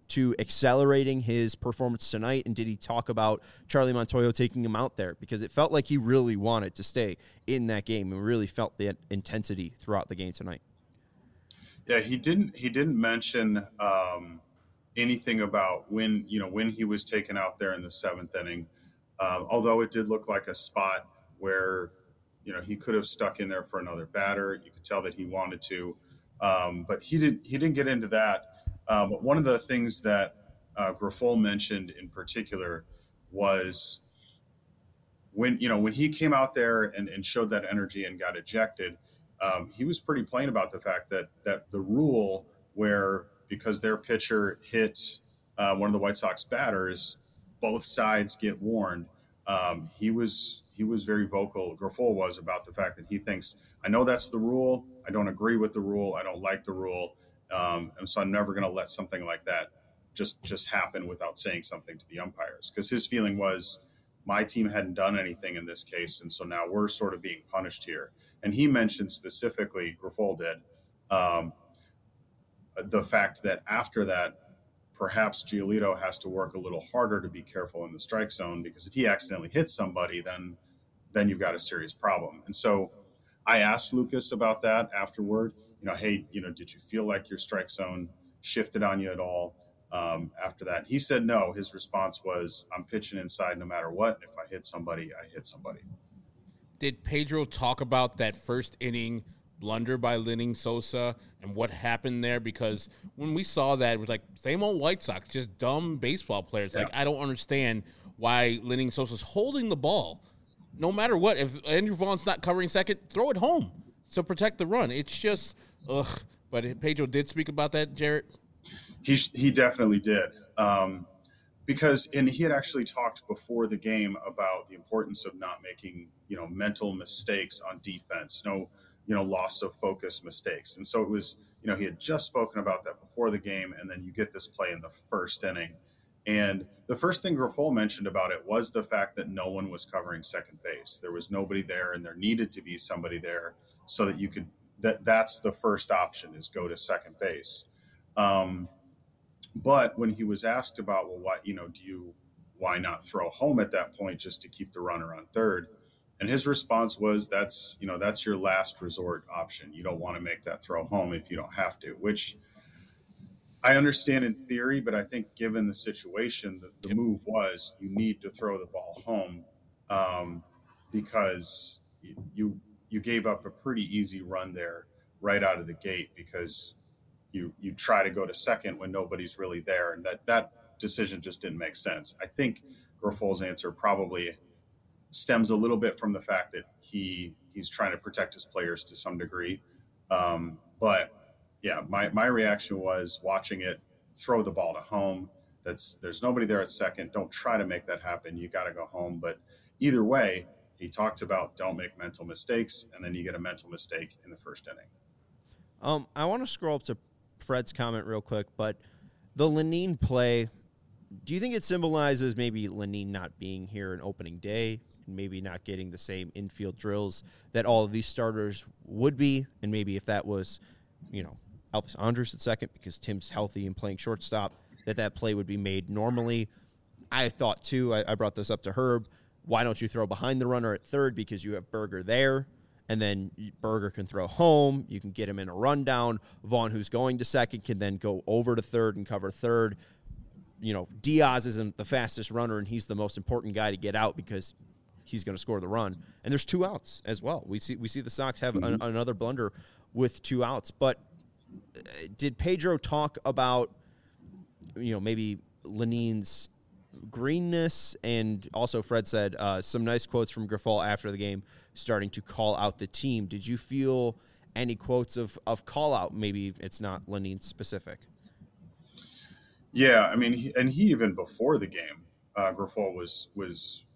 to accelerating his performance tonight? And did he talk about Charlie Montoyo taking him out there? Because it felt like he really wanted to stay in that game and really felt the intensity throughout the game tonight. Yeah, he didn't mention anything about when he was taken out there in the 7th inning. Although it did look like a spot where, he could have stuck in there for another batter. You could tell that he wanted to, but he didn't get into that. But one of the things that Grifol mentioned in particular was when he came out there and showed that energy and got ejected. He was pretty plain about the fact that the rule where, because their pitcher hit one of the White Sox batters, both sides get warned. He was very vocal. Grifol was, about the fact that he thinks, I know that's the rule. I don't agree with the rule. I don't like the rule. And so I'm never going to let something like that just happen without saying something to the umpires. Because his feeling was, my team hadn't done anything in this case, and so now we're sort of being punished here. And he mentioned specifically, Grifol did, the fact that after that, perhaps Giolito has to work a little harder to be careful in the strike zone, because if he accidentally hits somebody, then you've got a serious problem. And so I asked Lucas about that afterward. Hey, did you feel like your strike zone shifted on you at all after that? He said no. His response was, I'm pitching inside no matter what. If I hit somebody, I hit somebody. Did Pedro talk about that first inning blunder by Lenyn Sosa and what happened there? Because when we saw that, it was like, same old White Sox, just dumb baseball players. Yeah. Like, I don't understand why Lenyn Sosa's holding the ball. No matter what, if Andrew Vaughn's not covering second, throw it home to protect the run. It's just, ugh. But Pedro did speak about that, Jarrett? He definitely did. Because he had actually talked before the game about the importance of not making, mental mistakes on defense, no, loss of focus mistakes. And so it was, he had just spoken about that before the game, and then you get this play in the first inning. And the first thing Grifol mentioned about it was the fact that no one was covering second base. There was nobody there, and there needed to be somebody there so that you could, that's the first option, is go to second base. But when he was asked about, well, why not throw home at that point just to keep the runner on third? And his response was, that's your last resort option. You don't want to make that throw home if you don't have to, which I understand in theory, but I think given the situation, the move was, you need to throw the ball home because you gave up a pretty easy run there right out of the gate, because you try to go to second when nobody's really there. And that decision just didn't make sense. I think Grifol's answer probably stems a little bit from the fact that he's trying to protect his players to some degree. But yeah, my reaction was, watching it, throw the ball to home. There's nobody there at second. Don't try to make that happen. You got to go home. But either way, he talked about don't make mental mistakes, and then you get a mental mistake in the first inning. I want to scroll up to Fred's comment real quick, but the Lenyn play, do you think it symbolizes maybe Lenyn not being here in opening day and maybe not getting the same infield drills that all of these starters would be? And maybe if that was, Elvis Andrus at second because Tim's healthy and playing shortstop, that play would be made normally. I thought too, I brought this up to Herb, why don't you throw behind the runner at third, because you have Berger there, and then Berger can throw home. You can get him in a rundown. Vaughn, who's going to second, can then go over to third and cover third. Diaz isn't the fastest runner, and he's the most important guy to get out because he's going to score the run. And there's 2 outs as well. We see the Sox have another blunder with 2 outs. But did Pedro talk about, maybe Lenyn's greenness? And also Fred said some nice quotes from Grifol after the game, starting to call out the team. Did you feel any quotes of call out? Maybe it's not Lenyn specific. Yeah, I mean, he even before the game, Grifol was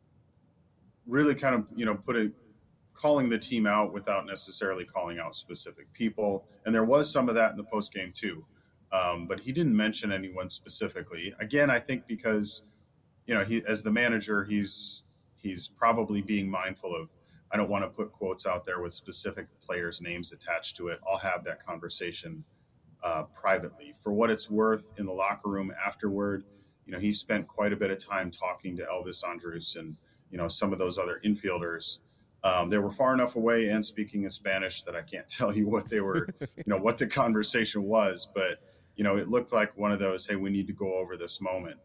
really kind of, calling the team out without necessarily calling out specific people. And there was some of that in the post game too. But he didn't mention anyone specifically. Again, I think because, he, as the manager, he's probably being mindful of, I don't want to put quotes out there with specific players' names attached to it. I'll have that conversation privately. For what it's worth, in the locker room afterward, he spent quite a bit of time talking to Elvis Andrus and some of those other infielders. They were far enough away and speaking in Spanish that I can't tell you what they were, what the conversation was, but it looked like one of those, hey, we need to go over this moment.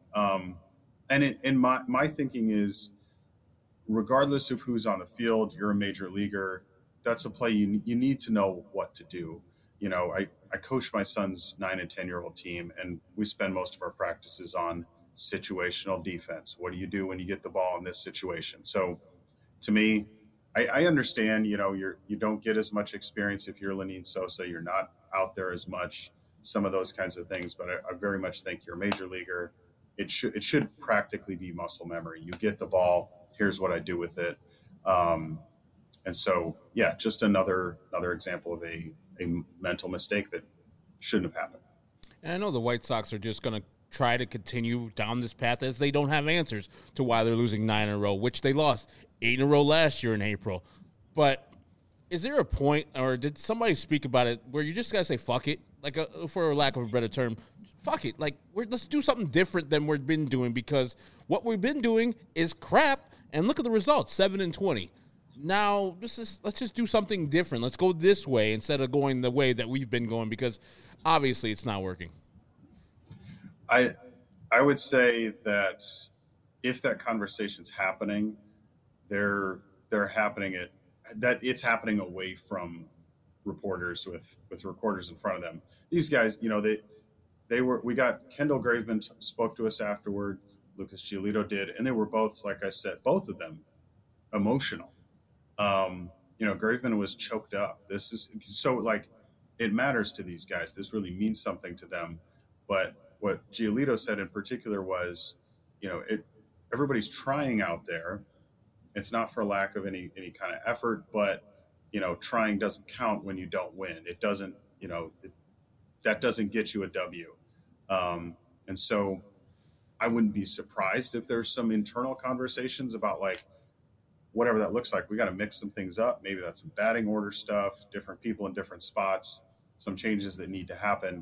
And my thinking is, regardless of who's on the field, you're a major leaguer. That's a play you need to know what to do. I coach my son's 9 and 10-year-old team, and we spend most of our practices on situational defense. What do you do when you get the ball in this situation? So to me, I understand, you don't get as much experience if you're Lenyn Sosa. You're not out there as much, some of those kinds of things, but I very much think you're a major leaguer. It should practically be muscle memory. You get the ball, here's what I do with it. And so, yeah, just another example of a mental mistake that shouldn't have happened. And I know the White Sox are just going to try to continue down this path as they don't have answers to why they're losing 9 in a row, which they lost 8 in a row last year in April. But is there a point, or did somebody speak about it, where you just got to say, fuck it, for lack of a better term, fuck it. Let's do something different than we've been doing, because what we've been doing is crap, and look at the results, 7 and 20. Now, let's just do something different. Let's go this way instead of going the way that we've been going, because obviously it's not working. I would say that if that conversation's happening, they're happening it's happening away from reporters with reporters in front of them. These guys, we got Kendall Graveman spoke to us afterward, Lucas Giolito did, and they were both, like I said, both of them emotional. Graveman was choked up. This is so it matters to these guys. This really means something to them. But what Giolito said in particular was, everybody's trying out there. It's not for lack of any kind of effort, but trying doesn't count when you don't win. It doesn't, that doesn't get you a W. And so I wouldn't be surprised if there's some internal conversations about whatever that looks like. We got to mix some things up. Maybe that's some batting order stuff, different people in different spots, some changes that need to happen.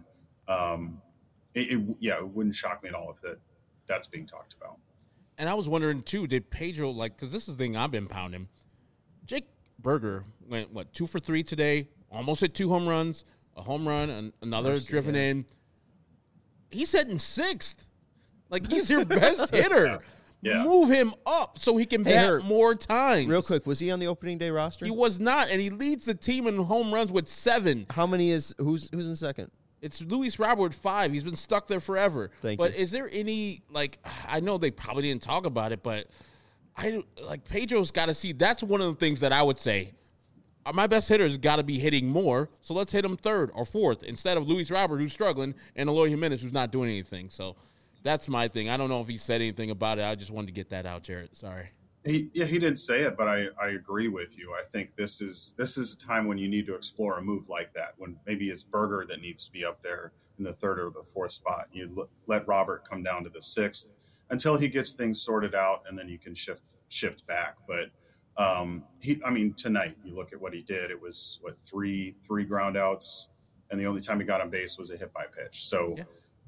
It wouldn't shock me at all if that's being talked about. And I was wondering too, did Pedro, because this is the thing I've been pounding. Jake Burger went 2 for 3 today, almost hit 2 home runs, a home run, and another driven in. He's hitting 6th. He's your best hitter. Yeah. Move him up so he can bat more times. Real quick, was he on the opening day roster? He was not, and he leads the team in home runs with 7. How many who's in second? It's Luis Robert with 5. He's been stuck there forever. But is there any, I know they probably didn't talk about it, but Pedro's got to see. That's one of the things that I would say. My best hitter's got to be hitting more, so let's hit him 3rd or 4th instead of Luis Robert, who's struggling, and Eloy Jimenez, who's not doing anything. So that's my thing. I don't know if he said anything about it. I just wanted to get that out, Jared. Sorry. He didn't say it, but I agree with you. I think this is a time when you need to explore a move like that, when maybe it's Burger that needs to be up there in the 3rd or the 4th spot. You let Robert come down to the 6th until he gets things sorted out, and then you can shift back. But tonight you look at what he did. It was three ground outs, and the only time he got on base was a hit by pitch. So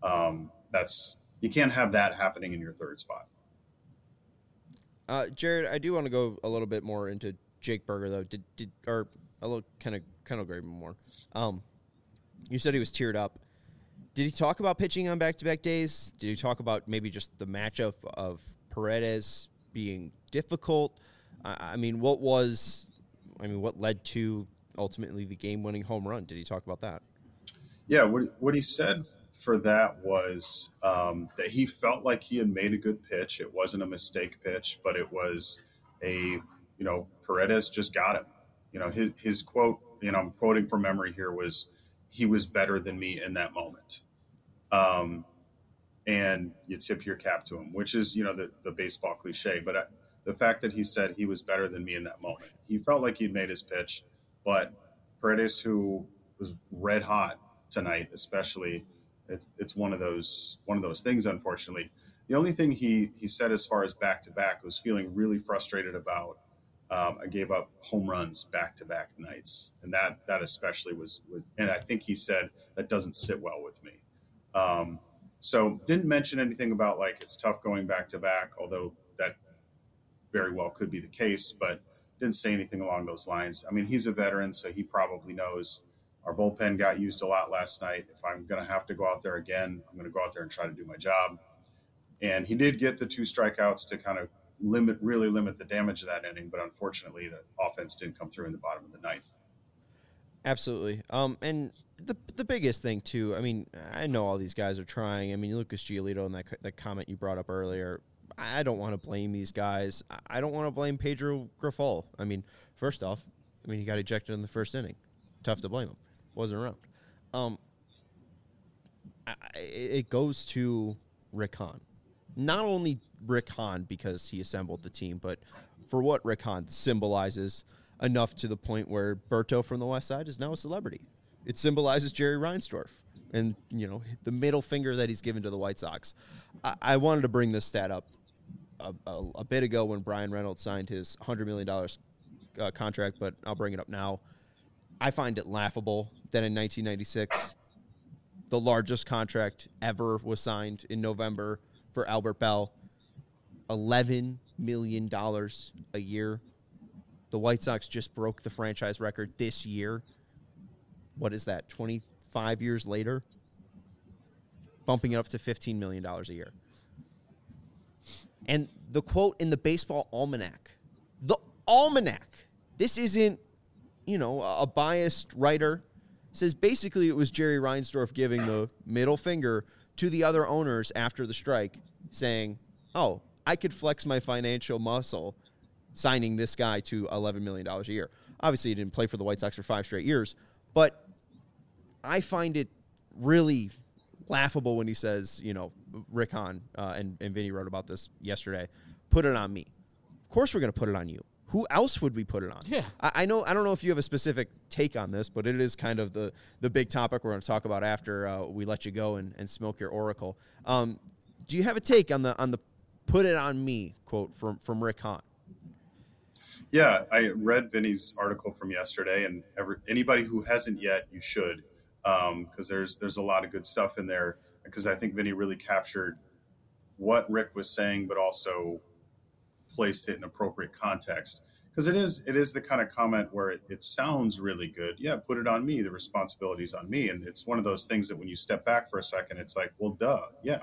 you can't have that happening in your 3rd spot. Jared, I do want to go a little bit more into Jake Burger, though. Or a little kind of Graveman more. You said he was teared up. Did he talk about pitching on back-to-back days? Did he talk about maybe just the matchup of Paredes being difficult? What led to ultimately the game-winning home run? Did he talk about that? Yeah, what he said for that was that he felt like he had made a good pitch. It wasn't a mistake pitch, but it was Paredes just got him. His quote, I'm quoting from memory here, was, "He was better than me in that moment." And you tip your cap to him, which is, the baseball cliche. But the fact that he said he was better than me in that moment, he felt like he'd made his pitch. But Paredes, who was red hot tonight, especially, it's one of those things, unfortunately. The only thing he said as far as back-to-back was feeling really frustrated about I gave up home runs back-to-back nights, and that especially was. And I think he said that doesn't sit well with me. So didn't mention anything about like it's tough going back-to-back, although that very well could be the case, but didn't say anything along those lines. I mean, he's a veteran, so he probably knows our bullpen got used a lot last night. If I'm going to have to go out there again, I'm going to go out there and try to do my job. And he did get the 2 strikeouts to kind of really limit the damage of that inning, but unfortunately the offense didn't come through in the bottom of the 9th. Absolutely. And the biggest thing too, I mean, I know all these guys are trying. I mean, Lucas Giolito and that comment you brought up earlier, I don't want to blame these guys. I don't want to blame Pedro Grifol. I mean, first off, he got ejected in the first inning. Tough to blame him. Wasn't around. It goes to Rick Hahn. Not only Rick Hahn because he assembled the team, but for what Rick Hahn symbolizes enough to the point where Berto from the West Side is now a celebrity. It symbolizes Jerry Reinsdorf and, the middle finger that he's given to the White Sox. I wanted to bring this stat up a bit ago when Brian Reynolds signed his $100 million contract, but I'll bring it up now. I find it laughable that in 1996, the largest contract ever was signed in November for Albert Bell, $11 million a year. The White Sox just broke the franchise record this year. What is that, 25 years later? Bumping it up to $15 million a year. And the quote in the Baseball Almanac, this isn't, a biased writer, says basically it was Jerry Reinsdorf giving the middle finger to the other owners after the strike, saying, oh, I could flex my financial muscle signing this guy to $11 million a year. Obviously, he didn't play for the White Sox for 5 straight years, but I find it really laughable when he says, Rick Hahn, and Vinny wrote about this yesterday, put it on me. Of course we're going to put it on you. Who else would we put it on? Yeah. I don't know if you have a specific take on this, but it is kind of the big topic we're going to talk about after we let you go and smoke your Oracle. Do you have a take on the put it on me quote from Rick Hahn? Yeah, I read Vinny's article from yesterday, and anybody who hasn't yet, you should, because there's a lot of good stuff in there, because I think Vinny really captured what Rick was saying, but also placed it in appropriate context. Because it is the kind of comment where it sounds really good. Yeah, put it on me. The responsibility's on me. And it's one of those things that when you step back for a second, it's like, well, duh, yeah.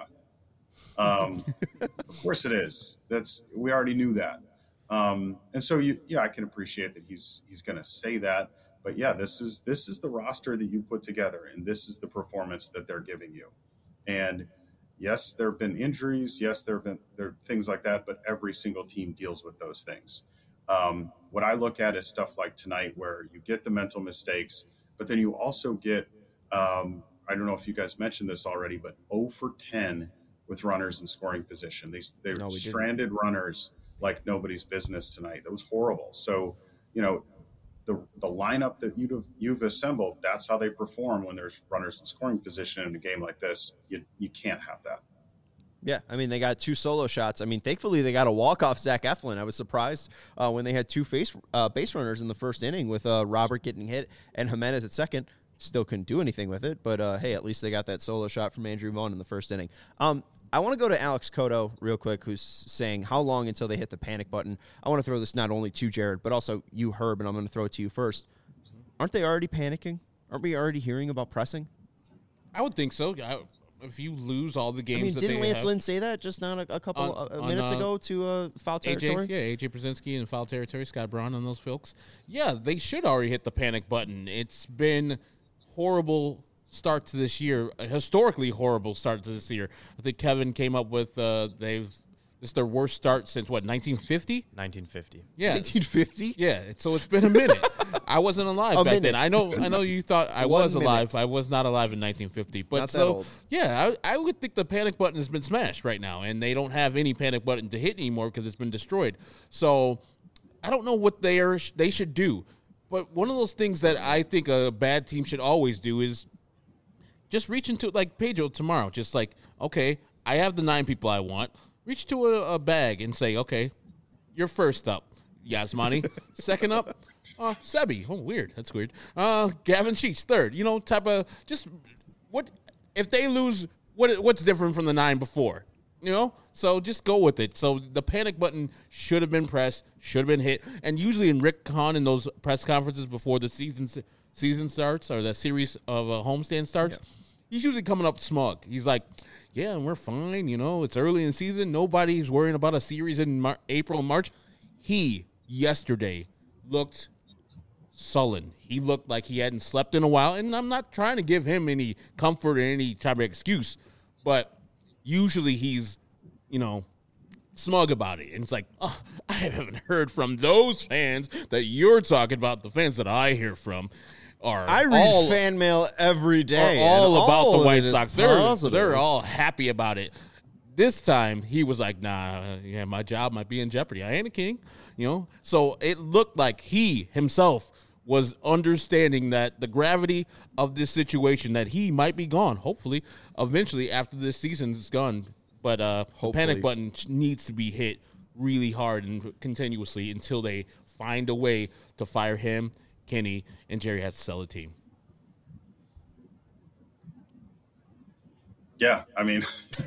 Of course it is. We already knew that. And so I can appreciate that he's going to say that. But yeah, this is the roster that you put together, and this is the performance that they're giving you. And yes, there have been injuries. Yes, there are things like that, but every single team deals with those things. What I look at is stuff like tonight where you get the mental mistakes, but then you also get, I don't know if you guys mentioned this already, but 0 for 10 with runners in scoring position. They stranded runners like nobody's business tonight. That was horrible. So, the lineup that you've assembled, that's how they perform when there's runners in scoring position in a game like this. You can't have that. Yeah, they got 2 solo shots. Thankfully they got a walk-off Zach Eflin. I was surprised when they had 2 base runners in the first inning with Robert getting hit and Jimenez at second. Still couldn't do anything with it, but hey, at least they got that solo shot from Andrew Vaughn in the first inning. I want to go to Alex Cotto real quick, who's saying how long until they hit the panic button. I want to throw this not only to Jared, but also you, Herb, and I'm going to throw it to you first. Aren't they already panicking? Aren't we already hearing about pressing? I would think so. If you lose all the games that they have. Didn't Lance Lynn say that just not a couple minutes ago to foul territory? AJ Brzezinski and foul territory, Scott Braun and those folks. Yeah, they should already hit the panic button. It's been horrible start to this year, a historically horrible start to this year. I think Kevin came up with this is their worst start since 1950? 1950. Yeah. 1950? Yeah, so it's been a minute. I wasn't alive back then. I know you thought I was alive. I was not alive in 1950. But not that old. Yeah, I would think the panic button has been smashed right now, and they don't have any panic button to hit anymore because it's been destroyed. So I don't know what they should do. But one of those things that I think a bad team should always do is just reach into, like Pedro tomorrow, just like, okay, I have the 9 people I want. Reach to a bag and say, okay, you're first up. Yasmani. Second up, Sebi. Oh, weird. That's weird. Gavin Sheets, third. Type of just what if they lose? What's different from the 9 before? So just go with it. So the panic button should have been pressed, should have been hit. And usually in Rick Hahn in those press conferences before the season starts or the series of a homestand starts, he's usually coming up smug. He's like, yeah, and we're fine. It's early in the season. Nobody's worrying about a series in April and March. He, yesterday, looked sullen. He looked like he hadn't slept in a while. And I'm not trying to give him any comfort or any type of excuse, but usually he's, smug about it. And it's like, oh, I haven't heard from those fans that you're talking about. The fans that I hear from I read fan mail every day. All about the White Sox. They're all happy about it. This time he was like, nah, my job might be in jeopardy. I ain't a king, So it looked like he himself was understanding that the gravity of this situation, that he might be gone, hopefully, eventually after this season is gone. But the panic button needs to be hit really hard and continuously until they find a way to fire him, Kenny, and Jerry has to sell the team. Yeah, I mean,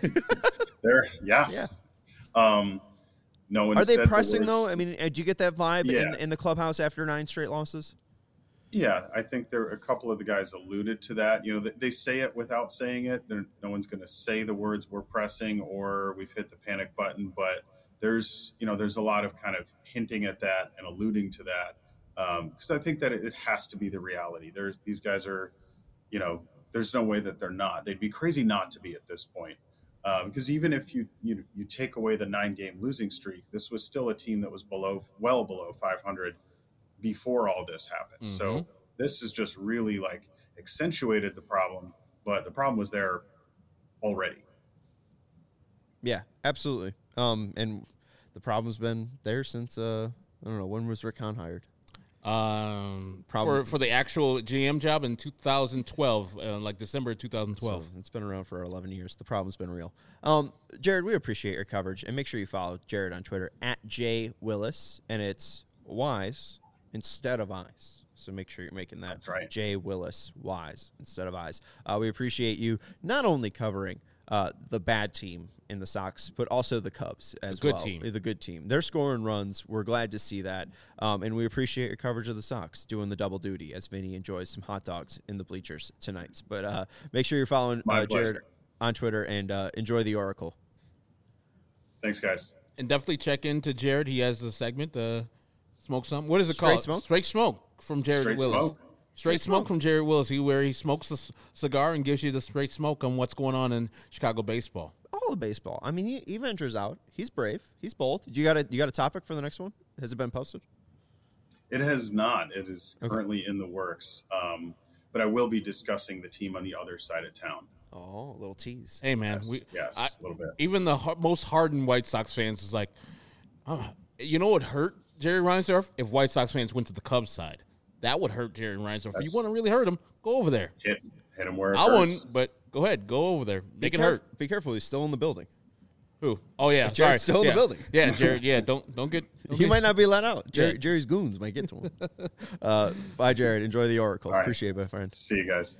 yeah. No one. Are they said pressing the words. though? I mean, did you get that vibe in the clubhouse after 9 straight losses? Yeah, I think there a couple of the guys alluded to that. They say it without saying it. No one's going to say the words "we're pressing" or "we've hit the panic button," but there's a lot of kind of hinting at that and alluding to that because I think that it has to be the reality. These guys are, there's no way that they're not. They'd be crazy not to be at this point. Because even if you take away the 9-game losing streak, this was still a team that was well below 500 before all this happened. Mm-hmm. So this has just really accentuated the problem, but the problem was there already. Yeah, absolutely. And the problem's been there since I don't know, when was Rick Hahn hired? For the actual GM job in 2012, December 2012. So it's been around for 11 years. The problem's been real. Jared, we appreciate your coverage, and make sure you follow Jared on Twitter @JWillis, and it's Wise instead of Eyes. So make sure you're making that right. J Willis Wise instead of Eyes. We appreciate you not only covering the bad team in the Sox, but also the Cubs as well. The good team. They're scoring runs. We're glad to see that. And we appreciate your coverage of the Sox, doing the double duty as Vinny enjoys some hot dogs in the bleachers tonight. But make sure you're following Jared on Twitter and enjoy the Oracle. Thanks, guys. And definitely check into Jared. He has a segment, Smoke Something. What is it called? Straight Smoke from Jared Willis. Straight smoke from Jared Willis, where he smokes a cigar and gives you the straight smoke on what's going on in Chicago baseball. All of baseball. I mean, he ventures out. He's brave. He's bold. You got a topic for the next one? Has it been posted? It has not. It is currently in the works. But I will be discussing the team on the other side of town. Oh, a little tease. Hey, man. Yes, a little bit. Even the most hardened White Sox fans is like, you know what hurt Jerry Reinsdorf? If White Sox fans went to the Cubs side. That would hurt Jerry Reinsdorf. If you want to really hurt him, go over there. Hit him where it hurts. I wouldn't, but go ahead. Go over there. Make it hurt. Be careful. He's still in the building. Who? Oh, yeah. Jared's still in the building. Yeah, Jared. Yeah, don't get. He might not be let out. Jerry's goons might get to him. Bye, Jared. Enjoy the Oracle. Right. Appreciate it, my friends. See you guys.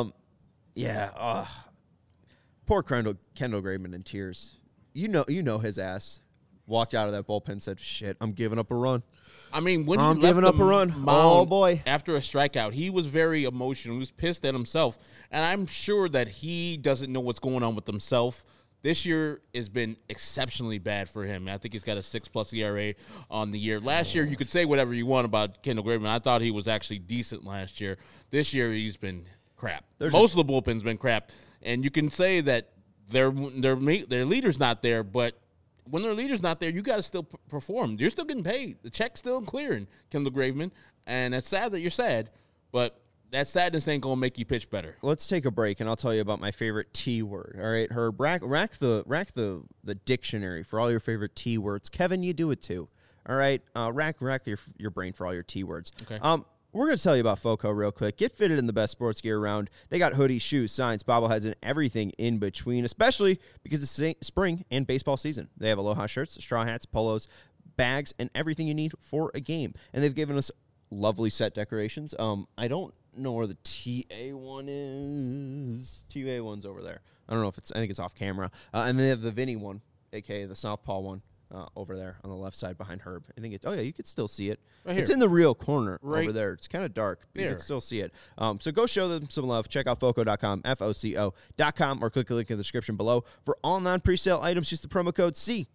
Poor Kendall Graveman in tears. You know his ass walked out of that bullpen and said, "Shit, I'm giving up a run." I mean, when I'm he left giving up a run. Oh, boy. After a strikeout, he was very emotional. He was pissed at himself. And I'm sure that he doesn't know what's going on with himself. This year has been exceptionally bad for him. I think he's got a 6+ ERA on the year. Last year, you could say whatever you want about Kendall Graveman. I thought he was actually decent last year. This year, he's been crap. Most of the bullpen's been crap. And you can say that their leader's not there, but when their leader's not there, you got to still perform. You're still getting paid. The check's still clearing, Kendall Graveman. And it's sad that you're sad, but that sadness ain't going to make you pitch better. Let's take a break, and I'll tell you about my favorite T word. All right, Herb, rack the dictionary for all your favorite T words. Kevin, you do it too. All right, rack your brain for all your T words. Okay. We're going to tell you about FOCO real quick. Get fitted in the best sports gear around. They got hoodies, shoes, signs, bobbleheads, and everything in between, especially because it's spring and baseball season. They have Aloha shirts, straw hats, polos, bags, and everything you need for a game. And they've given us lovely set decorations. I don't know where the TA one is. TA one's over there. I don't know if I think it's off camera. And they have the Vinny one, a.k.a. the Southpaw one, over there on the left side behind Herb. I think you could still see it. Right It's here. in the real corner Right over there. It's kind of dark, but you there. can still see it. So go show them some love. Check out FOCO.com, FOCO.com, or click the link in the description below. For all non-presale items, use the promo code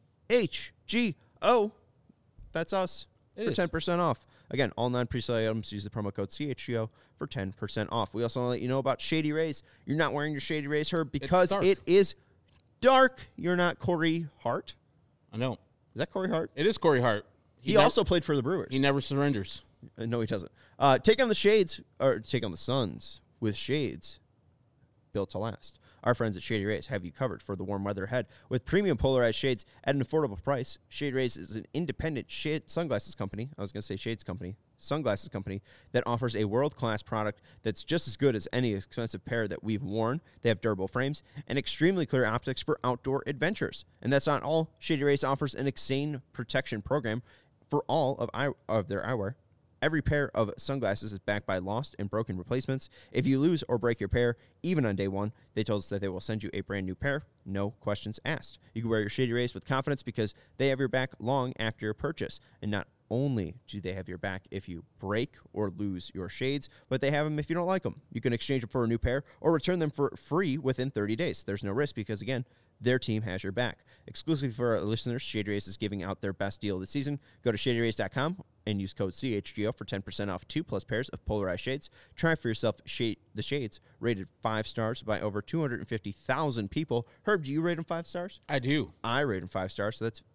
CHGO. That's us It for is. 10% off. Again, all non-presale items, use the promo code CHGO for 10% off. We also want to let you know about Shady Rays. You're not wearing your Shady Rays, Herb, because dark. it is dark. You're not Corey Hart. I know. Is that Corey Hart? It is Corey Hart. He also played for the Brewers. He never surrenders. No, he doesn't. Take on the Shades, or take on the Suns with shades built to last. Our friends at Shady Rays have you covered for the warm weather ahead with premium polarized shades at an affordable price. Shady Rays is an independent sunglasses company. I was going to say shades company. Sunglasses company that offers a world-class product that's just as good as any expensive pair that we've worn. They have durable frames and extremely clear optics for outdoor adventures. And that's not all. Shady Rays offers an Exane protection program for all of their eyewear. Every pair of sunglasses is backed by lost and broken replacements. If you lose or break your pair, even on day one, they told us that they will send you a brand new pair, no questions asked. You can wear your Shady Rays with confidence because they have your back long after your purchase. And not only do they have your back if you break or lose your shades, but they have them if you don't like them. You can exchange them for a new pair or return them for free within 30 days. There's no risk because, again, their team has your back. Exclusively for our listeners, Shady Rays is giving out their best deal this season. Go to ShadyRays.com and use code CHGO for 10% off 2+ pairs of polarized shades. Try for yourself the shades, rated 5 stars by over 250,000 people. Herb, do you rate them 5 stars? I do. I rate them 5 stars, so that's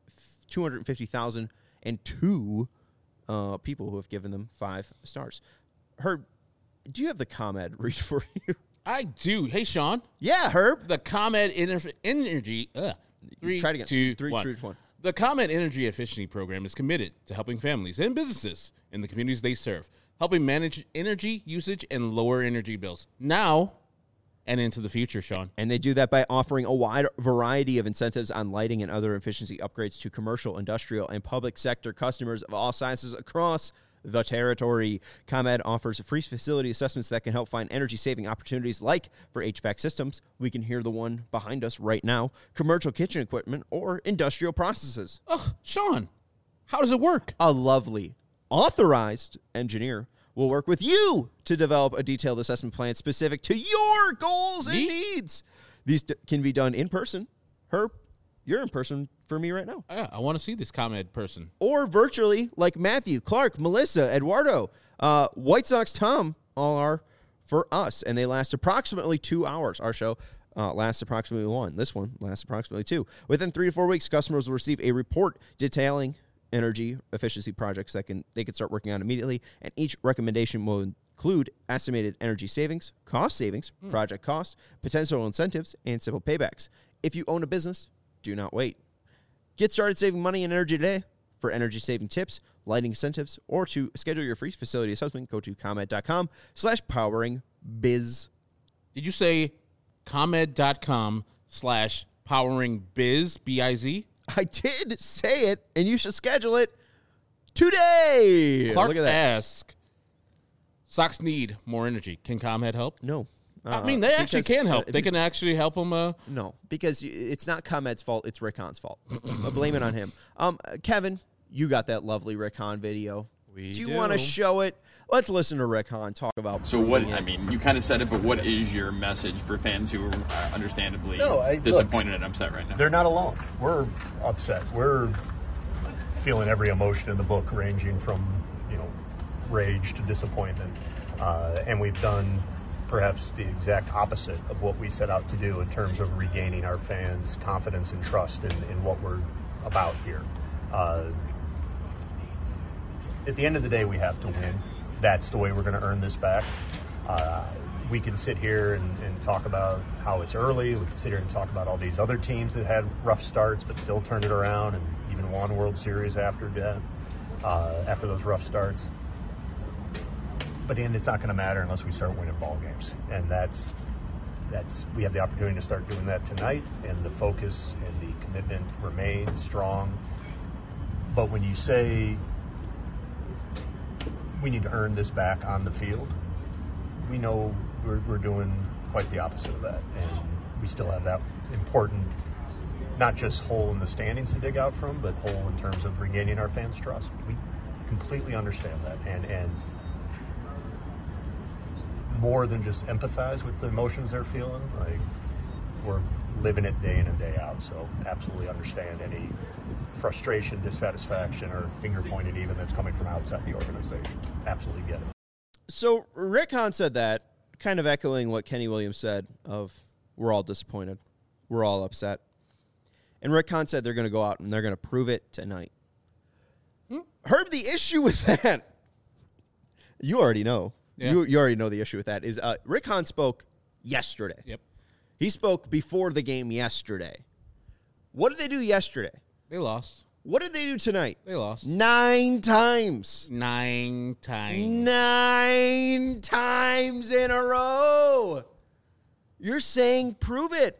250,002 people who have given them 5 stars. Herb, do you have the ComEd read for you? I do. Hey, Sean. Yeah, Herb. The ComEd Energy. Three, Try it again. two, 3, one. 2, 1. The ComEd Energy Efficiency Program is committed to helping families and businesses in the communities they serve, helping manage energy usage and lower energy bills now and into the future, Sean. And they do that by offering a wide variety of incentives on lighting and other efficiency upgrades to commercial, industrial, and public sector customers of all sizes across the territory. ComEd offers free facility assessments that can help find energy-saving opportunities like for HVAC systems. We can hear the one behind us right now. Commercial kitchen equipment or industrial processes. Oh, Sean, how does it work? A lovely, authorized engineer will work with you to develop a detailed assessment plan specific to your goals and needs. These can be done in person. Herb, you're in person for me right now. I want to see this ComEd person. Or virtually, like Matthew, Clark, Melissa, Eduardo, White Sox Tom, all are for us. And they last approximately 2 hours. Our show lasts approximately 1. This one lasts approximately 2. Within 3 to 4 weeks, customers will receive a report detailing energy efficiency projects that they can start working on immediately. And each recommendation will include estimated energy savings, cost savings, project cost, potential incentives, and simple paybacks. If you own a business, do not wait. Get started saving money and energy today. For energy-saving tips, lighting incentives, or to schedule your free facility assessment, go to ComEd.com/poweringbiz. Did you say ComEd.com/poweringbiz, B-I-Z? I did say it, and you should schedule it today. Clark Look at that. asks, Sox need more energy. Can ComEd help? No. I mean, they actually because, can help. They can actually help them. No, because it's not ComEd's fault. It's Rick Hahn's fault. Blame it on him. Kevin, you got that lovely Rick Hahn video. Do you want to show it? Let's listen to Rick Hahn talk about. So what? I mean, you kind of said it, but what is your message for fans who are understandably disappointed and upset right now? They're not alone. We're upset. We're feeling every emotion in the book, ranging from rage to disappointment, and we've done perhaps the exact opposite of what we set out to do in terms of regaining our fans' confidence and trust in what we're about here. At the end of the day, we have to win. That's the way we're going to earn this back. We can sit here and talk about how it's early. We can sit here and talk about all these other teams that had rough starts but still turned it around and even won World Series after that, after those rough starts. But in the end, it's not going to matter unless we start winning ball games. And that's we have the opportunity to start doing that tonight, and the focus and the commitment remains strong. But when you say we need to earn this back on the field, we know we're doing quite the opposite of that. And we still have that important, not just hole in the standings to dig out from, but hole in terms of regaining our fans' trust. We completely understand that. And more than just empathize with the emotions they're feeling, like, we're living it day in and day out. So absolutely understand any frustration, dissatisfaction, or finger pointing even that's coming from outside the organization. Absolutely get it. So Rick Hahn said that, kind of echoing what Kenny Williams said of, we're all disappointed, we're all upset. And Rick Hahn said they're going to go out and they're going to prove it tonight. Herb, the issue with that, you already know. Yeah. You already know the issue with that is Rick Hahn spoke yesterday. Yep. He spoke before the game yesterday. What did they do yesterday? They lost. What did they do tonight? They lost. 9 times. 9 times. 9 times in a row. You're saying prove it.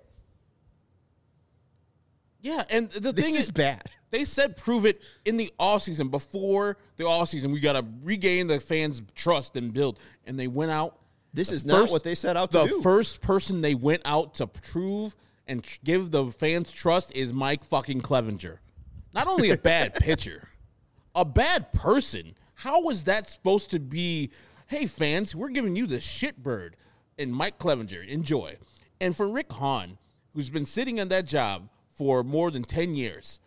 Yeah, and the thing is bad. They said prove it in the offseason. Before the offseason, we got to regain the fans' trust and build. And they went out. This is not what they set out to do. The first person they went out to prove and give the fans trust is Mike fucking Clevenger. Not only a bad pitcher, a bad person. How is that supposed to be, hey, fans, we're giving you the shitbird? And Mike Clevenger, enjoy. And for Rick Hahn, who's been sitting in that job for more than 10 years,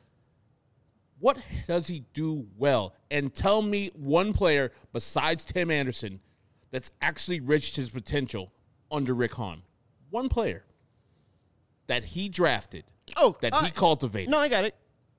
what does he do well? And tell me one player besides Tim Anderson that's actually reached his potential under Rick Hahn. One player that he drafted, that he cultivated. No, I got it.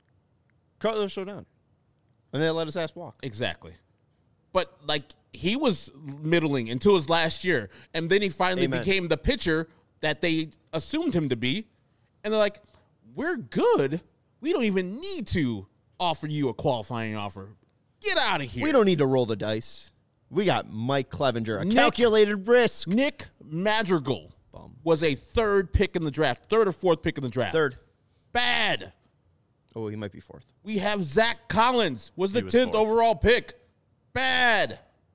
Carlos Rodon. And they let his ass walk. Exactly. But, like, he was middling until his last year, and then he finally became the pitcher that they assumed him to be. And they're like, we're good. We don't even need to offer you a qualifying offer. Get out of here. We don't need to roll the dice. We got Mike Clevenger, a calculated risk. Nick Madrigal was a third pick in the draft, third or fourth pick in the draft. Third. Bad. Oh, he might be fourth. We have Zach Collins, was the 10th overall pick. Bad.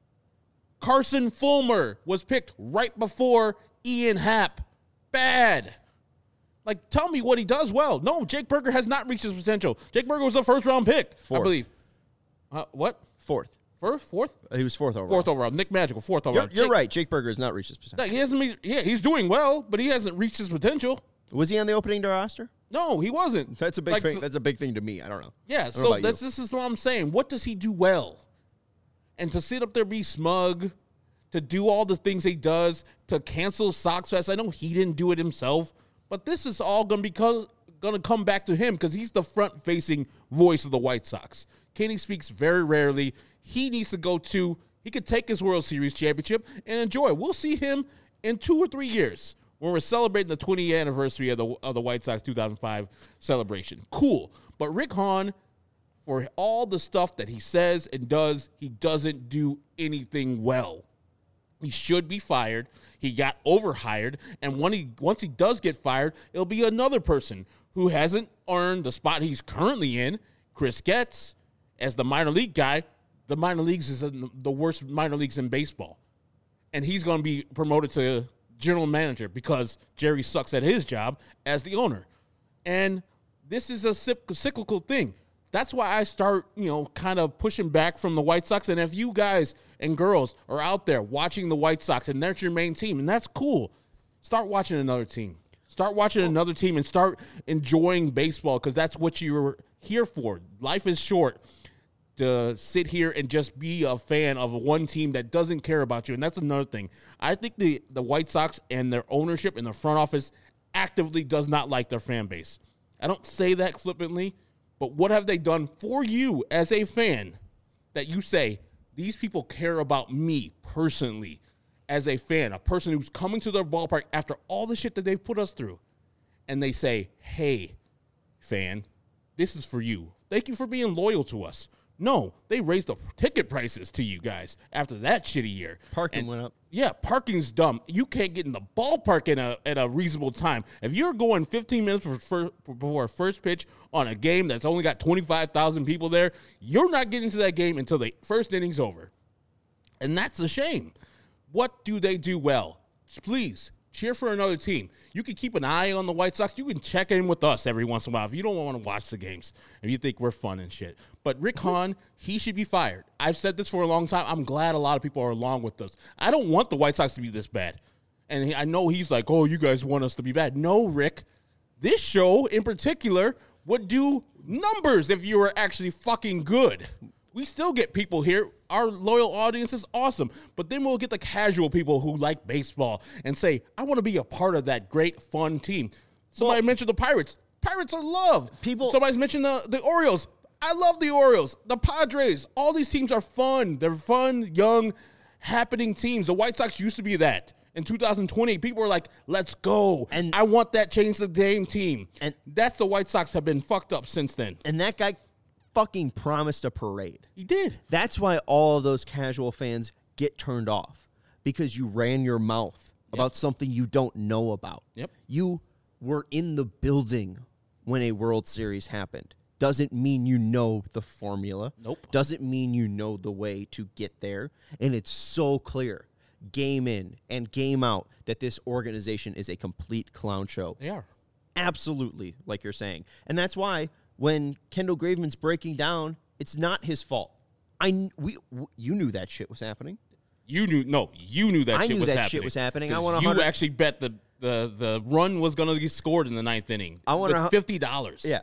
Carson Fulmer was picked right before Ian Happ. Bad. Like, tell me what he does well. No, Jake Burger has not reached his potential. Jake Burger was the first-round pick, I believe. What? Fourth. Fourth? He was fourth overall. Fourth overall. Nick Madrigal, fourth overall. You're right. Jake Burger has not reached his potential. He hasn't. Yeah, he's doing well, but he hasn't reached his potential. Was he on the opening day roster? No, he wasn't. That's a big thing. That's a big thing to me. I don't know. Yeah, so this is what I'm saying. What does he do well? And to sit up there, be smug, to do all the things he does, to cancel Sox Fest. I know he didn't do it himself, but this is all going to come back to him because he's the front-facing voice of the White Sox. Kenny speaks very rarely. He needs to go to, he could take his World Series championship and enjoy. We'll see him in 2 or 3 years when we're celebrating the 20th anniversary of the White Sox 2005 celebration. Cool. But Rick Hahn, for all the stuff that he says and does, he doesn't do anything well. He should be fired. He got overhired. And once he does get fired, it'll be another person who hasn't earned the spot he's currently in, Chris Getz, as the minor league guy. The minor leagues is the worst minor leagues in baseball. And he's going to be promoted to general manager because Jerry sucks at his job as the owner. And this is a cyclical thing. That's why I start, kind of pushing back from the White Sox. And if you guys and girls are out there watching the White Sox and that's your main team, and that's cool, start watching another team. Start watching another team and start enjoying baseball because that's what you're here for. Life is short to sit here and just be a fan of one team that doesn't care about you. And that's another thing. I think the White Sox and their ownership and their front office actively does not like their fan base. I don't say that flippantly, but what have they done for you as a fan that you say, these people care about me personally as a fan, a person who's coming to their ballpark after all the shit that they've put us through, and they say, hey, fan, this is for you. Thank you for being loyal to us. No, they raised the ticket prices to you guys after that shitty year. Parking went up. Yeah, parking's dumb. You can't get in the ballpark at a reasonable time. If you're going 15 minutes before first pitch on a game that's only got 25,000 people there, you're not getting to that game until the first inning's over. And that's a shame. What do they do well? Please, cheer for another team. You can keep an eye on the White Sox. You can check in with us every once in a while if you don't want to watch the games, if you think we're fun and shit. But Rick Hahn, he should be fired. I've said this for a long time. I'm glad a lot of people are along with us. I don't want the White Sox to be this bad. And I know he's like, oh, you guys want us to be bad. No, Rick. This show in particular would do numbers if you were actually fucking good. We still get people here. Our loyal audience is awesome. But then we'll get the casual people who like baseball and say, I want to be a part of that great, fun team. Somebody mentioned the Pirates. Pirates are loved. Somebody's mentioned the Orioles. I love the Orioles. The Padres. All these teams are fun. They're fun, young, happening teams. The White Sox used to be that. In 2020, people were like, let's go. And I want that change the game team. And that's the White Sox have been fucked up since then. And that guy fucking promised a parade. He did. That's why all of those casual fans get turned off, because you ran your mouth about something you don't know about. Yep. You were in the building when a World Series happened. Doesn't mean you know the formula. Nope. Doesn't mean you know the way to get there. And it's so clear, game in and game out, that this organization is a complete clown show. They are. Absolutely, like you're saying. And that's why when Kendall Graveman's breaking down, it's not his fault. You knew that shit was happening. You knew that shit was happening. You actually bet the run was going to get scored in the ninth inning. I want $50. Yeah,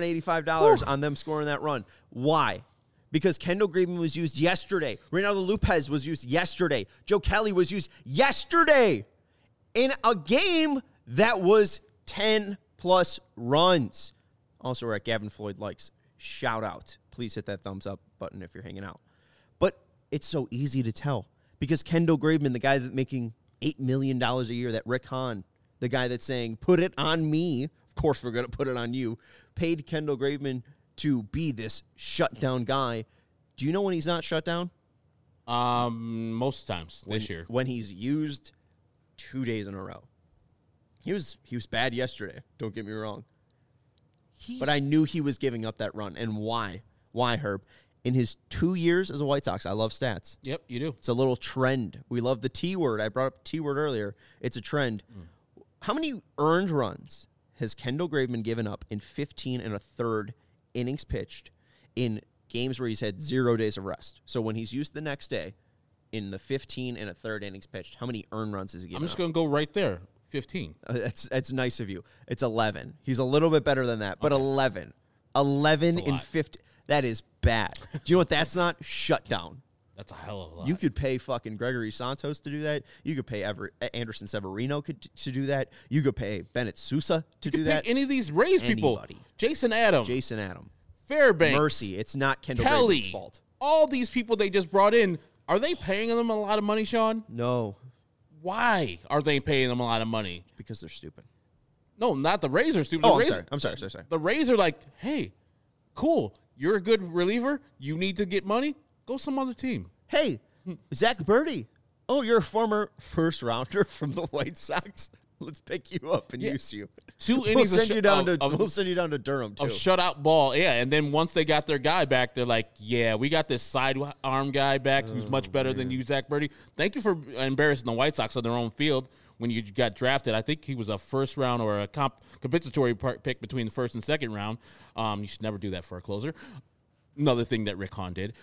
$185 on them scoring that run. Why? Because Kendall Graveman was used yesterday. Reynaldo Lopez was used yesterday. Joe Kelly was used yesterday in a game that was 10-plus runs. Also, we're at Gavin Floyd Likes. Shout out. Please hit that thumbs up button if you're hanging out. But it's so easy to tell, because Kendall Graveman, the guy that's making $8 million a year, that Rick Hahn, the guy that's saying, put it on me, of course we're going to put it on you, paid Kendall Graveman to be this shutdown guy. Do you know when he's not shut down? Most times this year. When he's used 2 days in a row. He was bad yesterday, don't get me wrong. But I knew he was giving up that run. And why? Why, Herb? In his 2 years as a White Sox, I love stats. Yep, you do. It's a little trend. We love the T word. I brought up the T word earlier. It's a trend. How many earned runs has Kendall Graveman given up in 15 1/3 innings pitched in games where he's had 0 days of rest? So when he's used the next day, in the 15 1/3 innings pitched, how many earned runs has he given up? I'm just going to go right there. 15. That's nice of you. It's 11. He's a little bit better than that, but okay. 11. 11 in 50. That is bad. Do you know what that's not? Shut down. That's a hell of a lot. You could pay fucking Gregory Santos to do that. You could pay Anderson Severino to do that. You could pay Bennett Sousa to do that. Any of these Rays people. Jason Adam. Fairbanks. Mercy. It's not Kendall Kelly. Graveman's fault. All these people they just brought in, are they paying them a lot of money, Sean? No. Why are they paying them a lot of money? Because they're stupid. No, not the Rays are stupid. I'm sorry. The Rays are like, hey, cool. You're a good reliever. You need to get money. Go some other team. Hey, Zach Birdie. Oh, you're a former first rounder from the White Sox. Let's pick you up and use you. 2 innings. We'll send you down to Durham too. Of shutout ball, yeah. And then once they got their guy back, they're like, yeah, we got this sidearm guy back who's much better than you, Zach Birdie. Thank you for embarrassing the White Sox on their own field when you got drafted. I think he was a first round or a compensatory pick between the first and second round. You should never do that for a closer. Another thing that Rick Hahn did.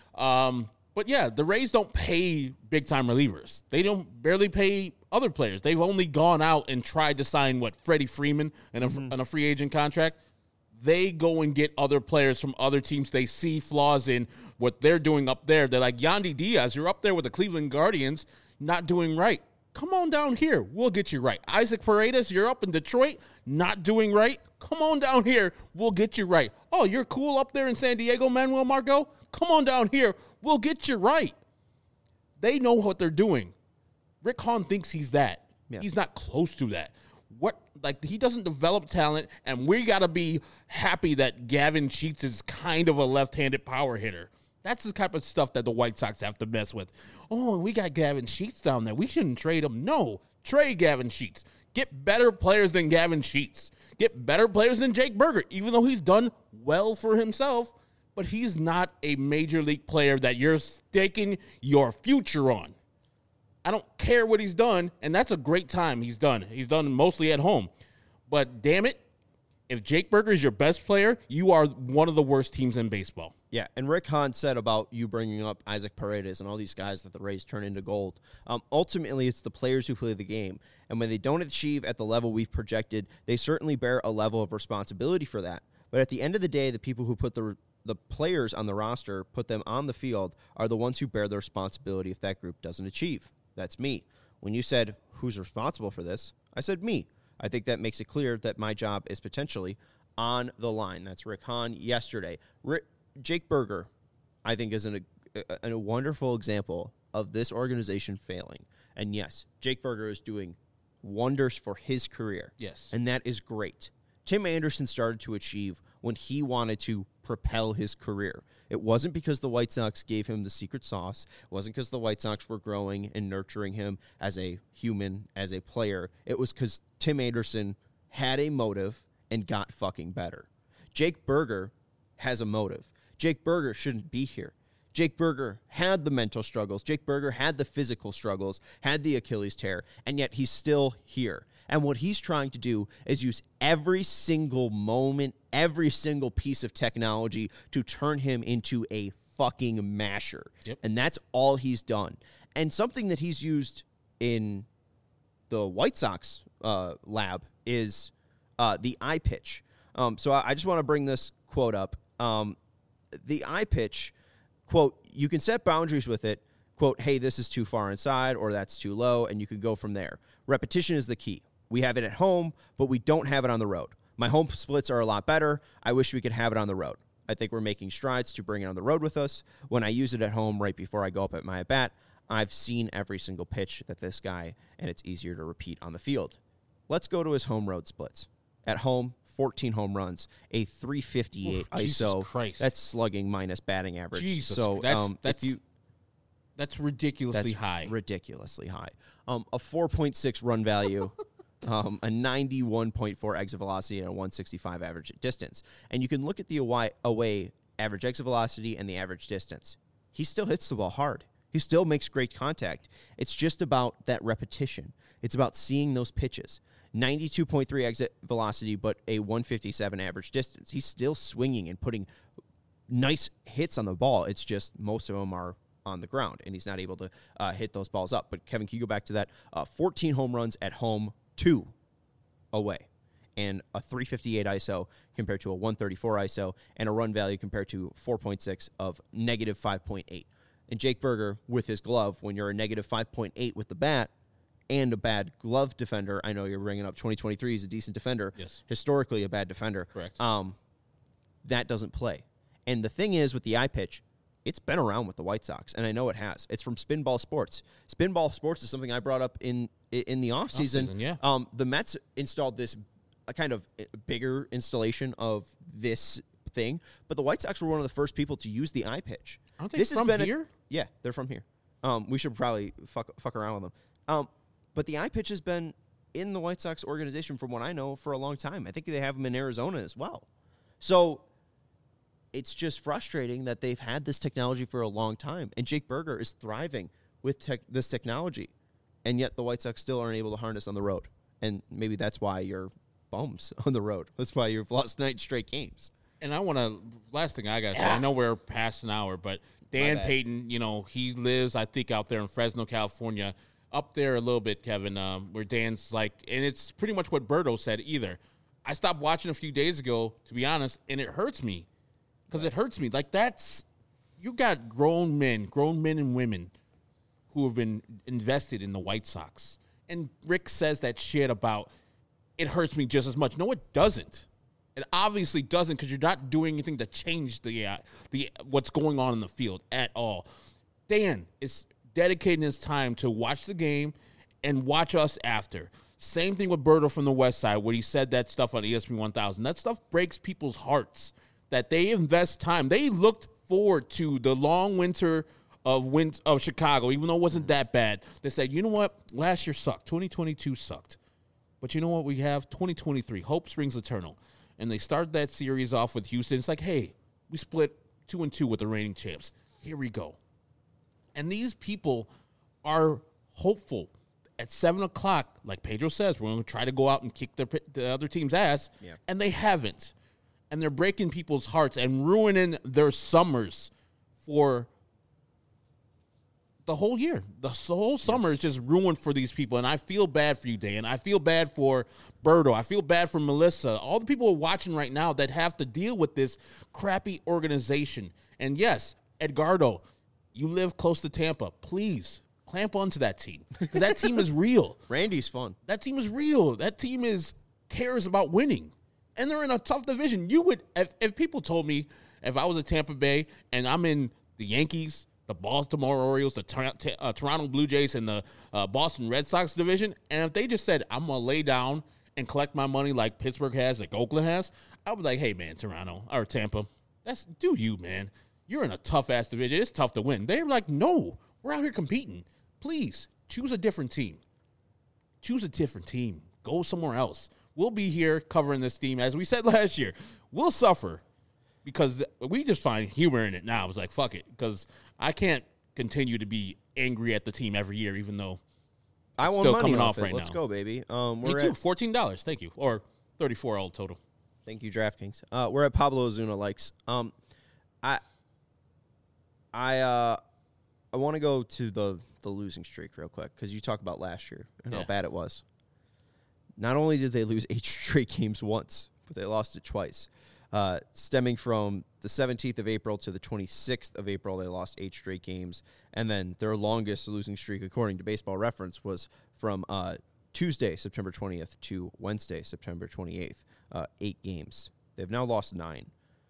But yeah, the Rays don't pay big-time relievers. They don't barely pay other players. They've only gone out and tried to sign, Freddie Freeman on a free agent contract. They go and get other players from other teams. They see flaws in what they're doing up there. They're like, Yandy Diaz, you're up there with the Cleveland Guardians, not doing right. Come on down here. We'll get you right. Isaac Paredes, you're up in Detroit, not doing right. Come on down here. We'll get you right. Oh, you're cool up there in San Diego, Manuel Margot? Come on down here. We'll get you right. They know what they're doing. Rick Hahn thinks he's that. Yeah. He's not close to that. He doesn't develop talent, and we got to be happy that Gavin Sheets is kind of a left-handed power hitter. That's the type of stuff that the White Sox have to mess with. Oh, we got Gavin Sheets down there. We shouldn't trade him. No, trade Gavin Sheets. Get better players than Gavin Sheets. Get better players than Jake Burger, even though he's done well for himself, but he's not a major league player that you're staking your future on. I don't care what he's done, and that's a great time he's done. He's done mostly at home. But damn it, if Jake Burger is your best player, you are one of the worst teams in baseball. Yeah, and Rick Hahn said about you bringing up Isaac Paredes and all these guys that the Rays turn into gold. Ultimately, it's the players who play the game. And when they don't achieve at the level we've projected, they certainly bear a level of responsibility for that. But at the end of the day, the people who put the players on the roster, put them on the field, are the ones who bear the responsibility if that group doesn't achieve. That's me. When you said, who's responsible for this? I said me. I think that makes it clear that my job is potentially on the line. That's Rick Hahn yesterday. Jake Burger, I think, is a wonderful example of this organization failing. And yes, Jake Burger is doing wonders for his career. Yes. And that is great. Tim Anderson started to achieve when he wanted to propel his career. It wasn't because the White Sox gave him the secret sauce. It wasn't because the White Sox were growing and nurturing him as a human, as a player. It was because Tim Anderson had a motive and got fucking better. Jake Burger has a motive. Jake Burger shouldn't be here. Jake Burger had the mental struggles. Jake Burger had the physical struggles, had the Achilles tear, and yet he's still here. And what he's trying to do is use every single moment, every single piece of technology to turn him into a fucking masher. Yep. And that's all he's done. And something that he's used in the White Sox lab is the eye pitch. So I just want to bring this quote up. The eye pitch, quote, you can set boundaries with it, quote, hey, this is too far inside or that's too low, and you can go from there. Repetition is the key. We have it at home, but we don't have it on the road. My home splits are a lot better. I wish we could have it on the road. I think we're making strides to bring it on the road with us. When I use it at home right before I go up at my at-bat, I've seen every single pitch that this guy, and it's easier to repeat on the field. Let's go to his home road splits. At home, 14 home runs, a 358 ISO. Christ. That's slugging minus batting average. Jesus, so that's ridiculously high. Ridiculously high. A 4.6 run value, a 91.4 exit velocity, and a 165 average distance. And you can look at the away average exit velocity and the average distance. He still hits the ball hard. He still makes great contact. It's just about that repetition. It's about seeing those pitches. 92.3 exit velocity, but a 157 average distance. He's still swinging and putting nice hits on the ball. It's just most of them are on the ground, and he's not able to hit those balls up. But, Kevin, can you go back to that? 14 home runs at home, 2 away, and a 358 ISO compared to a 134 ISO, and a run value compared to 4.6 of negative 5.8. And Jake Burger, with his glove, when you're a negative 5.8 with the bat, and a bad glove defender. I know you're bringing up 2023. He's a decent defender. Yes. Historically, a bad defender. Correct. That doesn't play. And the thing is, with the eye pitch, it's been around with the White Sox, and I know it has. It's from Spinball Sports. Spinball Sports is something I brought up in the offseason. Yeah. The Mets installed this kind of bigger installation of this thing, but the White Sox were one of the first people to use the eye pitch. Aren't they from here? Yeah, they're from here. We should probably fuck around with them. But the eye pitch has been in the White Sox organization, from what I know, for a long time. I think they have them in Arizona as well. So it's just frustrating that they've had this technology for a long time, and Jake Burger is thriving with this technology, and yet the White Sox still aren't able to harness on the road. And maybe that's why you're bums on the road. That's why you've lost 9 straight games. And I want to, last thing I got to say, I know we're past an hour, but Dan Payton, he lives, I think, out there in Fresno, California, up there a little bit, Kevin, where Dan's like, and it's pretty much what Berto said either. I stopped watching a few days ago, to be honest, and it hurts me. Because it hurts me. Like, you got grown men and women who have been invested in the White Sox. And Rick says that shit about, it hurts me just as much. No, it doesn't. It obviously doesn't, because you're not doing anything to change the what's going on in the field at all. Dan is dedicating his time to watch the game and watch us after. Same thing with Berto from the West Side, where he said that stuff on ESPN 1000. That stuff breaks people's hearts. that they invest time. They looked forward to the long winter of Chicago, even though it wasn't that bad. They said, you know what? Last year sucked. 2022 sucked. But you know what we have? 2023. Hope springs eternal. And they start that series off with Houston. It's like, hey, we split 2-2 with the reigning champs. Here we go. And these people are hopeful. At 7 o'clock, like Pedro says, we're going to try to go out and kick the other team's ass. Yeah. And they haven't. And they're breaking people's hearts and ruining their summers for the whole year. The whole summer is just ruined for these people. And I feel bad for you, Dan. I feel bad for Berto. I feel bad for Melissa. All the people watching right now that have to deal with this crappy organization. And yes, Edgardo, you live close to Tampa. Please clamp onto that team, because that team is real. Randy's fun. That team is real. That team cares about winning. And they're in a tough division. You would, if people told me, if I was at Tampa Bay and I'm in the Yankees, the Baltimore Orioles, the Toronto Blue Jays, and the Boston Red Sox division, and if they just said, I'm going to lay down and collect my money like Pittsburgh has, like Oakland has, I would be like, hey, man, Toronto or Tampa, do you, man. You're in a tough-ass division. It's tough to win. They're like, no, we're out here competing. Please, choose a different team. Choose a different team. Go somewhere else. We'll be here covering this team. As we said last year, we'll suffer because we just find humor in it now. It's like, fuck it, because I can't continue to be angry at the team every year, even though I want still money coming off off right Let's now. go, baby. Me too. $14. Thank you. Or $34 all total. Thank you, DraftKings. We're at Pablo Ozuna likes. I want to go to the losing streak real quick, because you talk about last year and how bad it was. Not only did they lose 8 straight games once, but they lost it twice. Stemming from the 17th of April to the 26th of April, they lost 8 straight games. And then their longest losing streak, according to Baseball Reference, was from Tuesday, September 20th to Wednesday, September 28th. 8 games. They've now lost 9.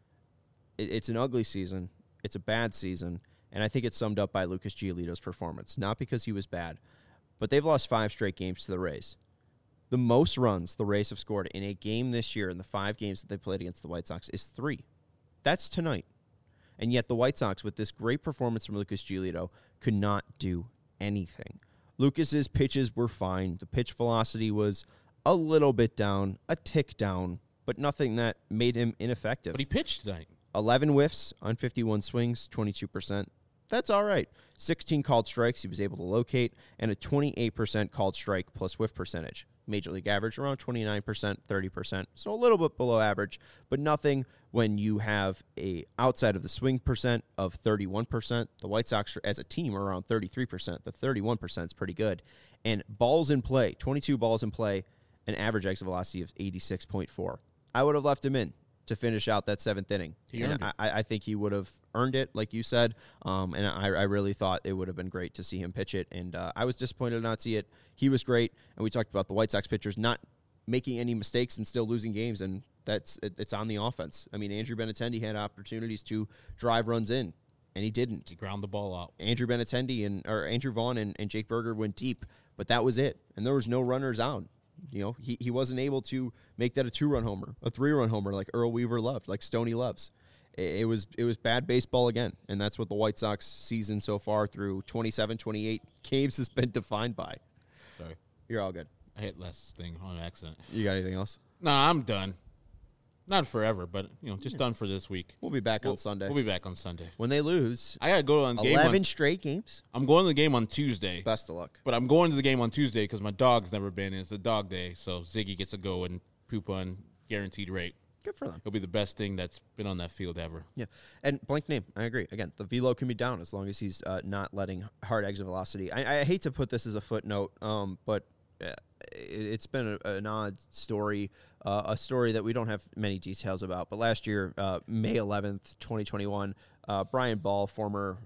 It's an ugly season. It's a bad season. And I think it's summed up by Lucas Giolito's performance. Not because he was bad, but they've lost 5 straight games to the Rays. The most runs the Rays have scored in a game this year in the 5 games that they played against the White Sox is 3. That's tonight. And yet the White Sox, with this great performance from Lucas Giolito, could not do anything. Lucas's pitches were fine. The pitch velocity was a little bit down, a tick down, but nothing that made him ineffective. But he pitched tonight. 11 whiffs on 51 swings, 22%. That's all right. 16 called strikes he was able to locate, and a 28% called strike plus whiff percentage. Major League average around 29%, 30%, so a little bit below average, but nothing when you have a outside of the swing percent of 31%. The White Sox as a team are around 33%. The 31% is pretty good. And balls in play, 22 balls in play, an average exit velocity of 86.4. I would have left him in to finish out that 7th inning. I think he would have earned it, like you said, and I really thought it would have been great to see him pitch it, and I was disappointed to not see it. He was great, and we talked about the White Sox pitchers not making any mistakes and still losing games, and it's on the offense. I mean, Andrew Benintendi had opportunities to drive runs in, and he didn't. He ground the ball out. Andrew Vaughn and Jake Berger went deep, but that was it, and there was no runners out. You know, he wasn't able to make that a 2-run homer, a 3-run homer like Earl Weaver loved, like Stoney loves. It was bad baseball again, and that's what the White Sox season so far through 27, 28 games has been defined by. Sorry. You're all good. I hit last thing on accident. You got anything else? No, I'm done. Not forever, but just done for this week. We'll be back on Sunday. We'll be back on Sunday. When they lose, I got to go on game 11 straight games. I'm going to the game on Tuesday. Best of luck. But I'm going to the game on Tuesday because my dog's never been in. It's a dog day, so Ziggy gets to go and poop on guaranteed rate. Good for them. It'll be the best thing that's been on that field ever. Yeah. And blank name, I agree. Again, the velo can be down as long as he's not letting hard exit velocity. I hate to put this as a footnote, but it's been an odd story, a story that we don't have many details about. But last year, May 11th, 2021, Brian Ball, former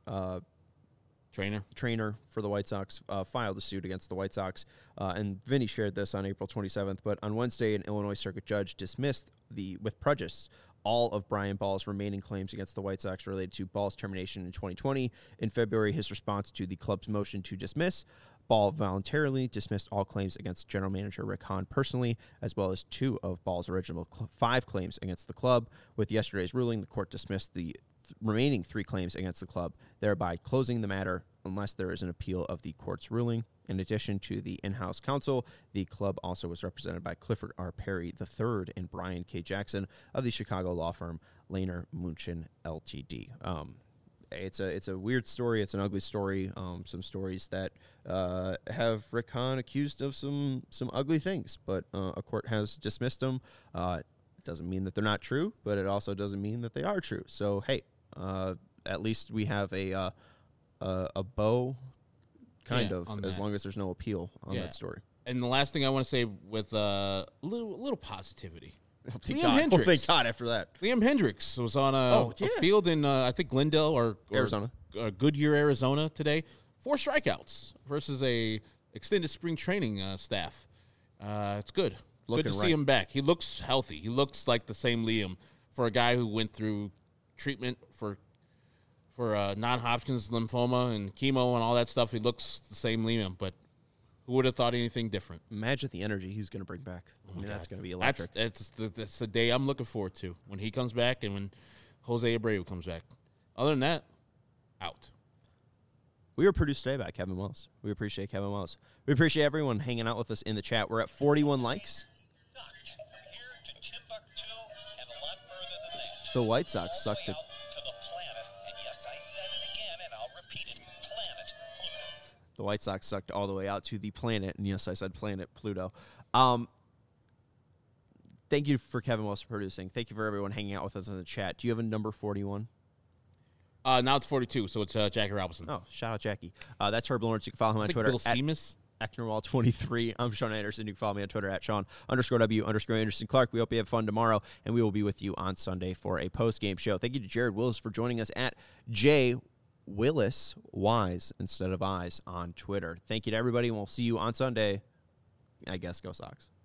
trainer for the White Sox, filed a suit against the White Sox. And Vinny shared this on April 27th. But on Wednesday, an Illinois Circuit judge dismissed with prejudice all of Brian Ball's remaining claims against the White Sox related to Ball's termination in 2020. In February, his response to the club's motion to dismiss, Ball voluntarily dismissed all claims against general manager Rick Hahn personally, as well as 2 of Ball's original 5 claims against the club. With yesterday's ruling, the court dismissed the remaining 3 claims against the club, thereby closing the matter unless there is an appeal of the court's ruling. In addition to the in-house counsel, the club also was represented by Clifford R. Perry III and Brian K. Jackson of the Chicago law firm Lehner Munchen Ltd. It's a weird story. It's an ugly story. Some stories that have Rick Hahn accused of some ugly things, but a court has dismissed them. It doesn't mean that they're not true, but it also doesn't mean that they are true. So hey, at least we have a bow, kind of, as long as there's no appeal on that story. And the last thing I want to say with a little positivity. Thank God after that. Liam Hendriks was on a field in, I think, Glendale or Arizona. Goodyear, Arizona today. 4 strikeouts versus a extended spring training staff. It's good. It's good to see him back. He looks healthy. He looks like the same Liam for a guy who went through treatment for non-Hodgkin's lymphoma and chemo and all that stuff. He looks the same Liam, but who would have thought anything different? Imagine the energy he's going to bring back. That's going to be electric. That's the day I'm looking forward to, when he comes back and when Jose Abreu comes back. Other than that, out. We were produced today by Kevin Wells. We appreciate Kevin Wells. We appreciate everyone hanging out with us in the chat. We're at 41 likes. The White Sox sucked it. The White Sox sucked all the way out to the planet. And yes, I said planet Pluto. Thank you for Kevin Wells for producing. Thank you for everyone hanging out with us in the chat. Do you have a number 41? Now it's 42, so it's Jackie Robinson. Oh, shout out Jackie. That's Herb Lawrence. You can follow him on Twitter. Bill Seamus. Ecknerwall23. I'm Sean Anderson. You can follow me on Twitter at Sean_W_Anderson Clark. We hope you have fun tomorrow, and we will be with you on Sunday for a post-game show. Thank you to Jared Willis for joining us at J Willis Wise instead of Eyes on Twitter. Thank you to everybody, and we'll see you on Sunday. I guess go Sox.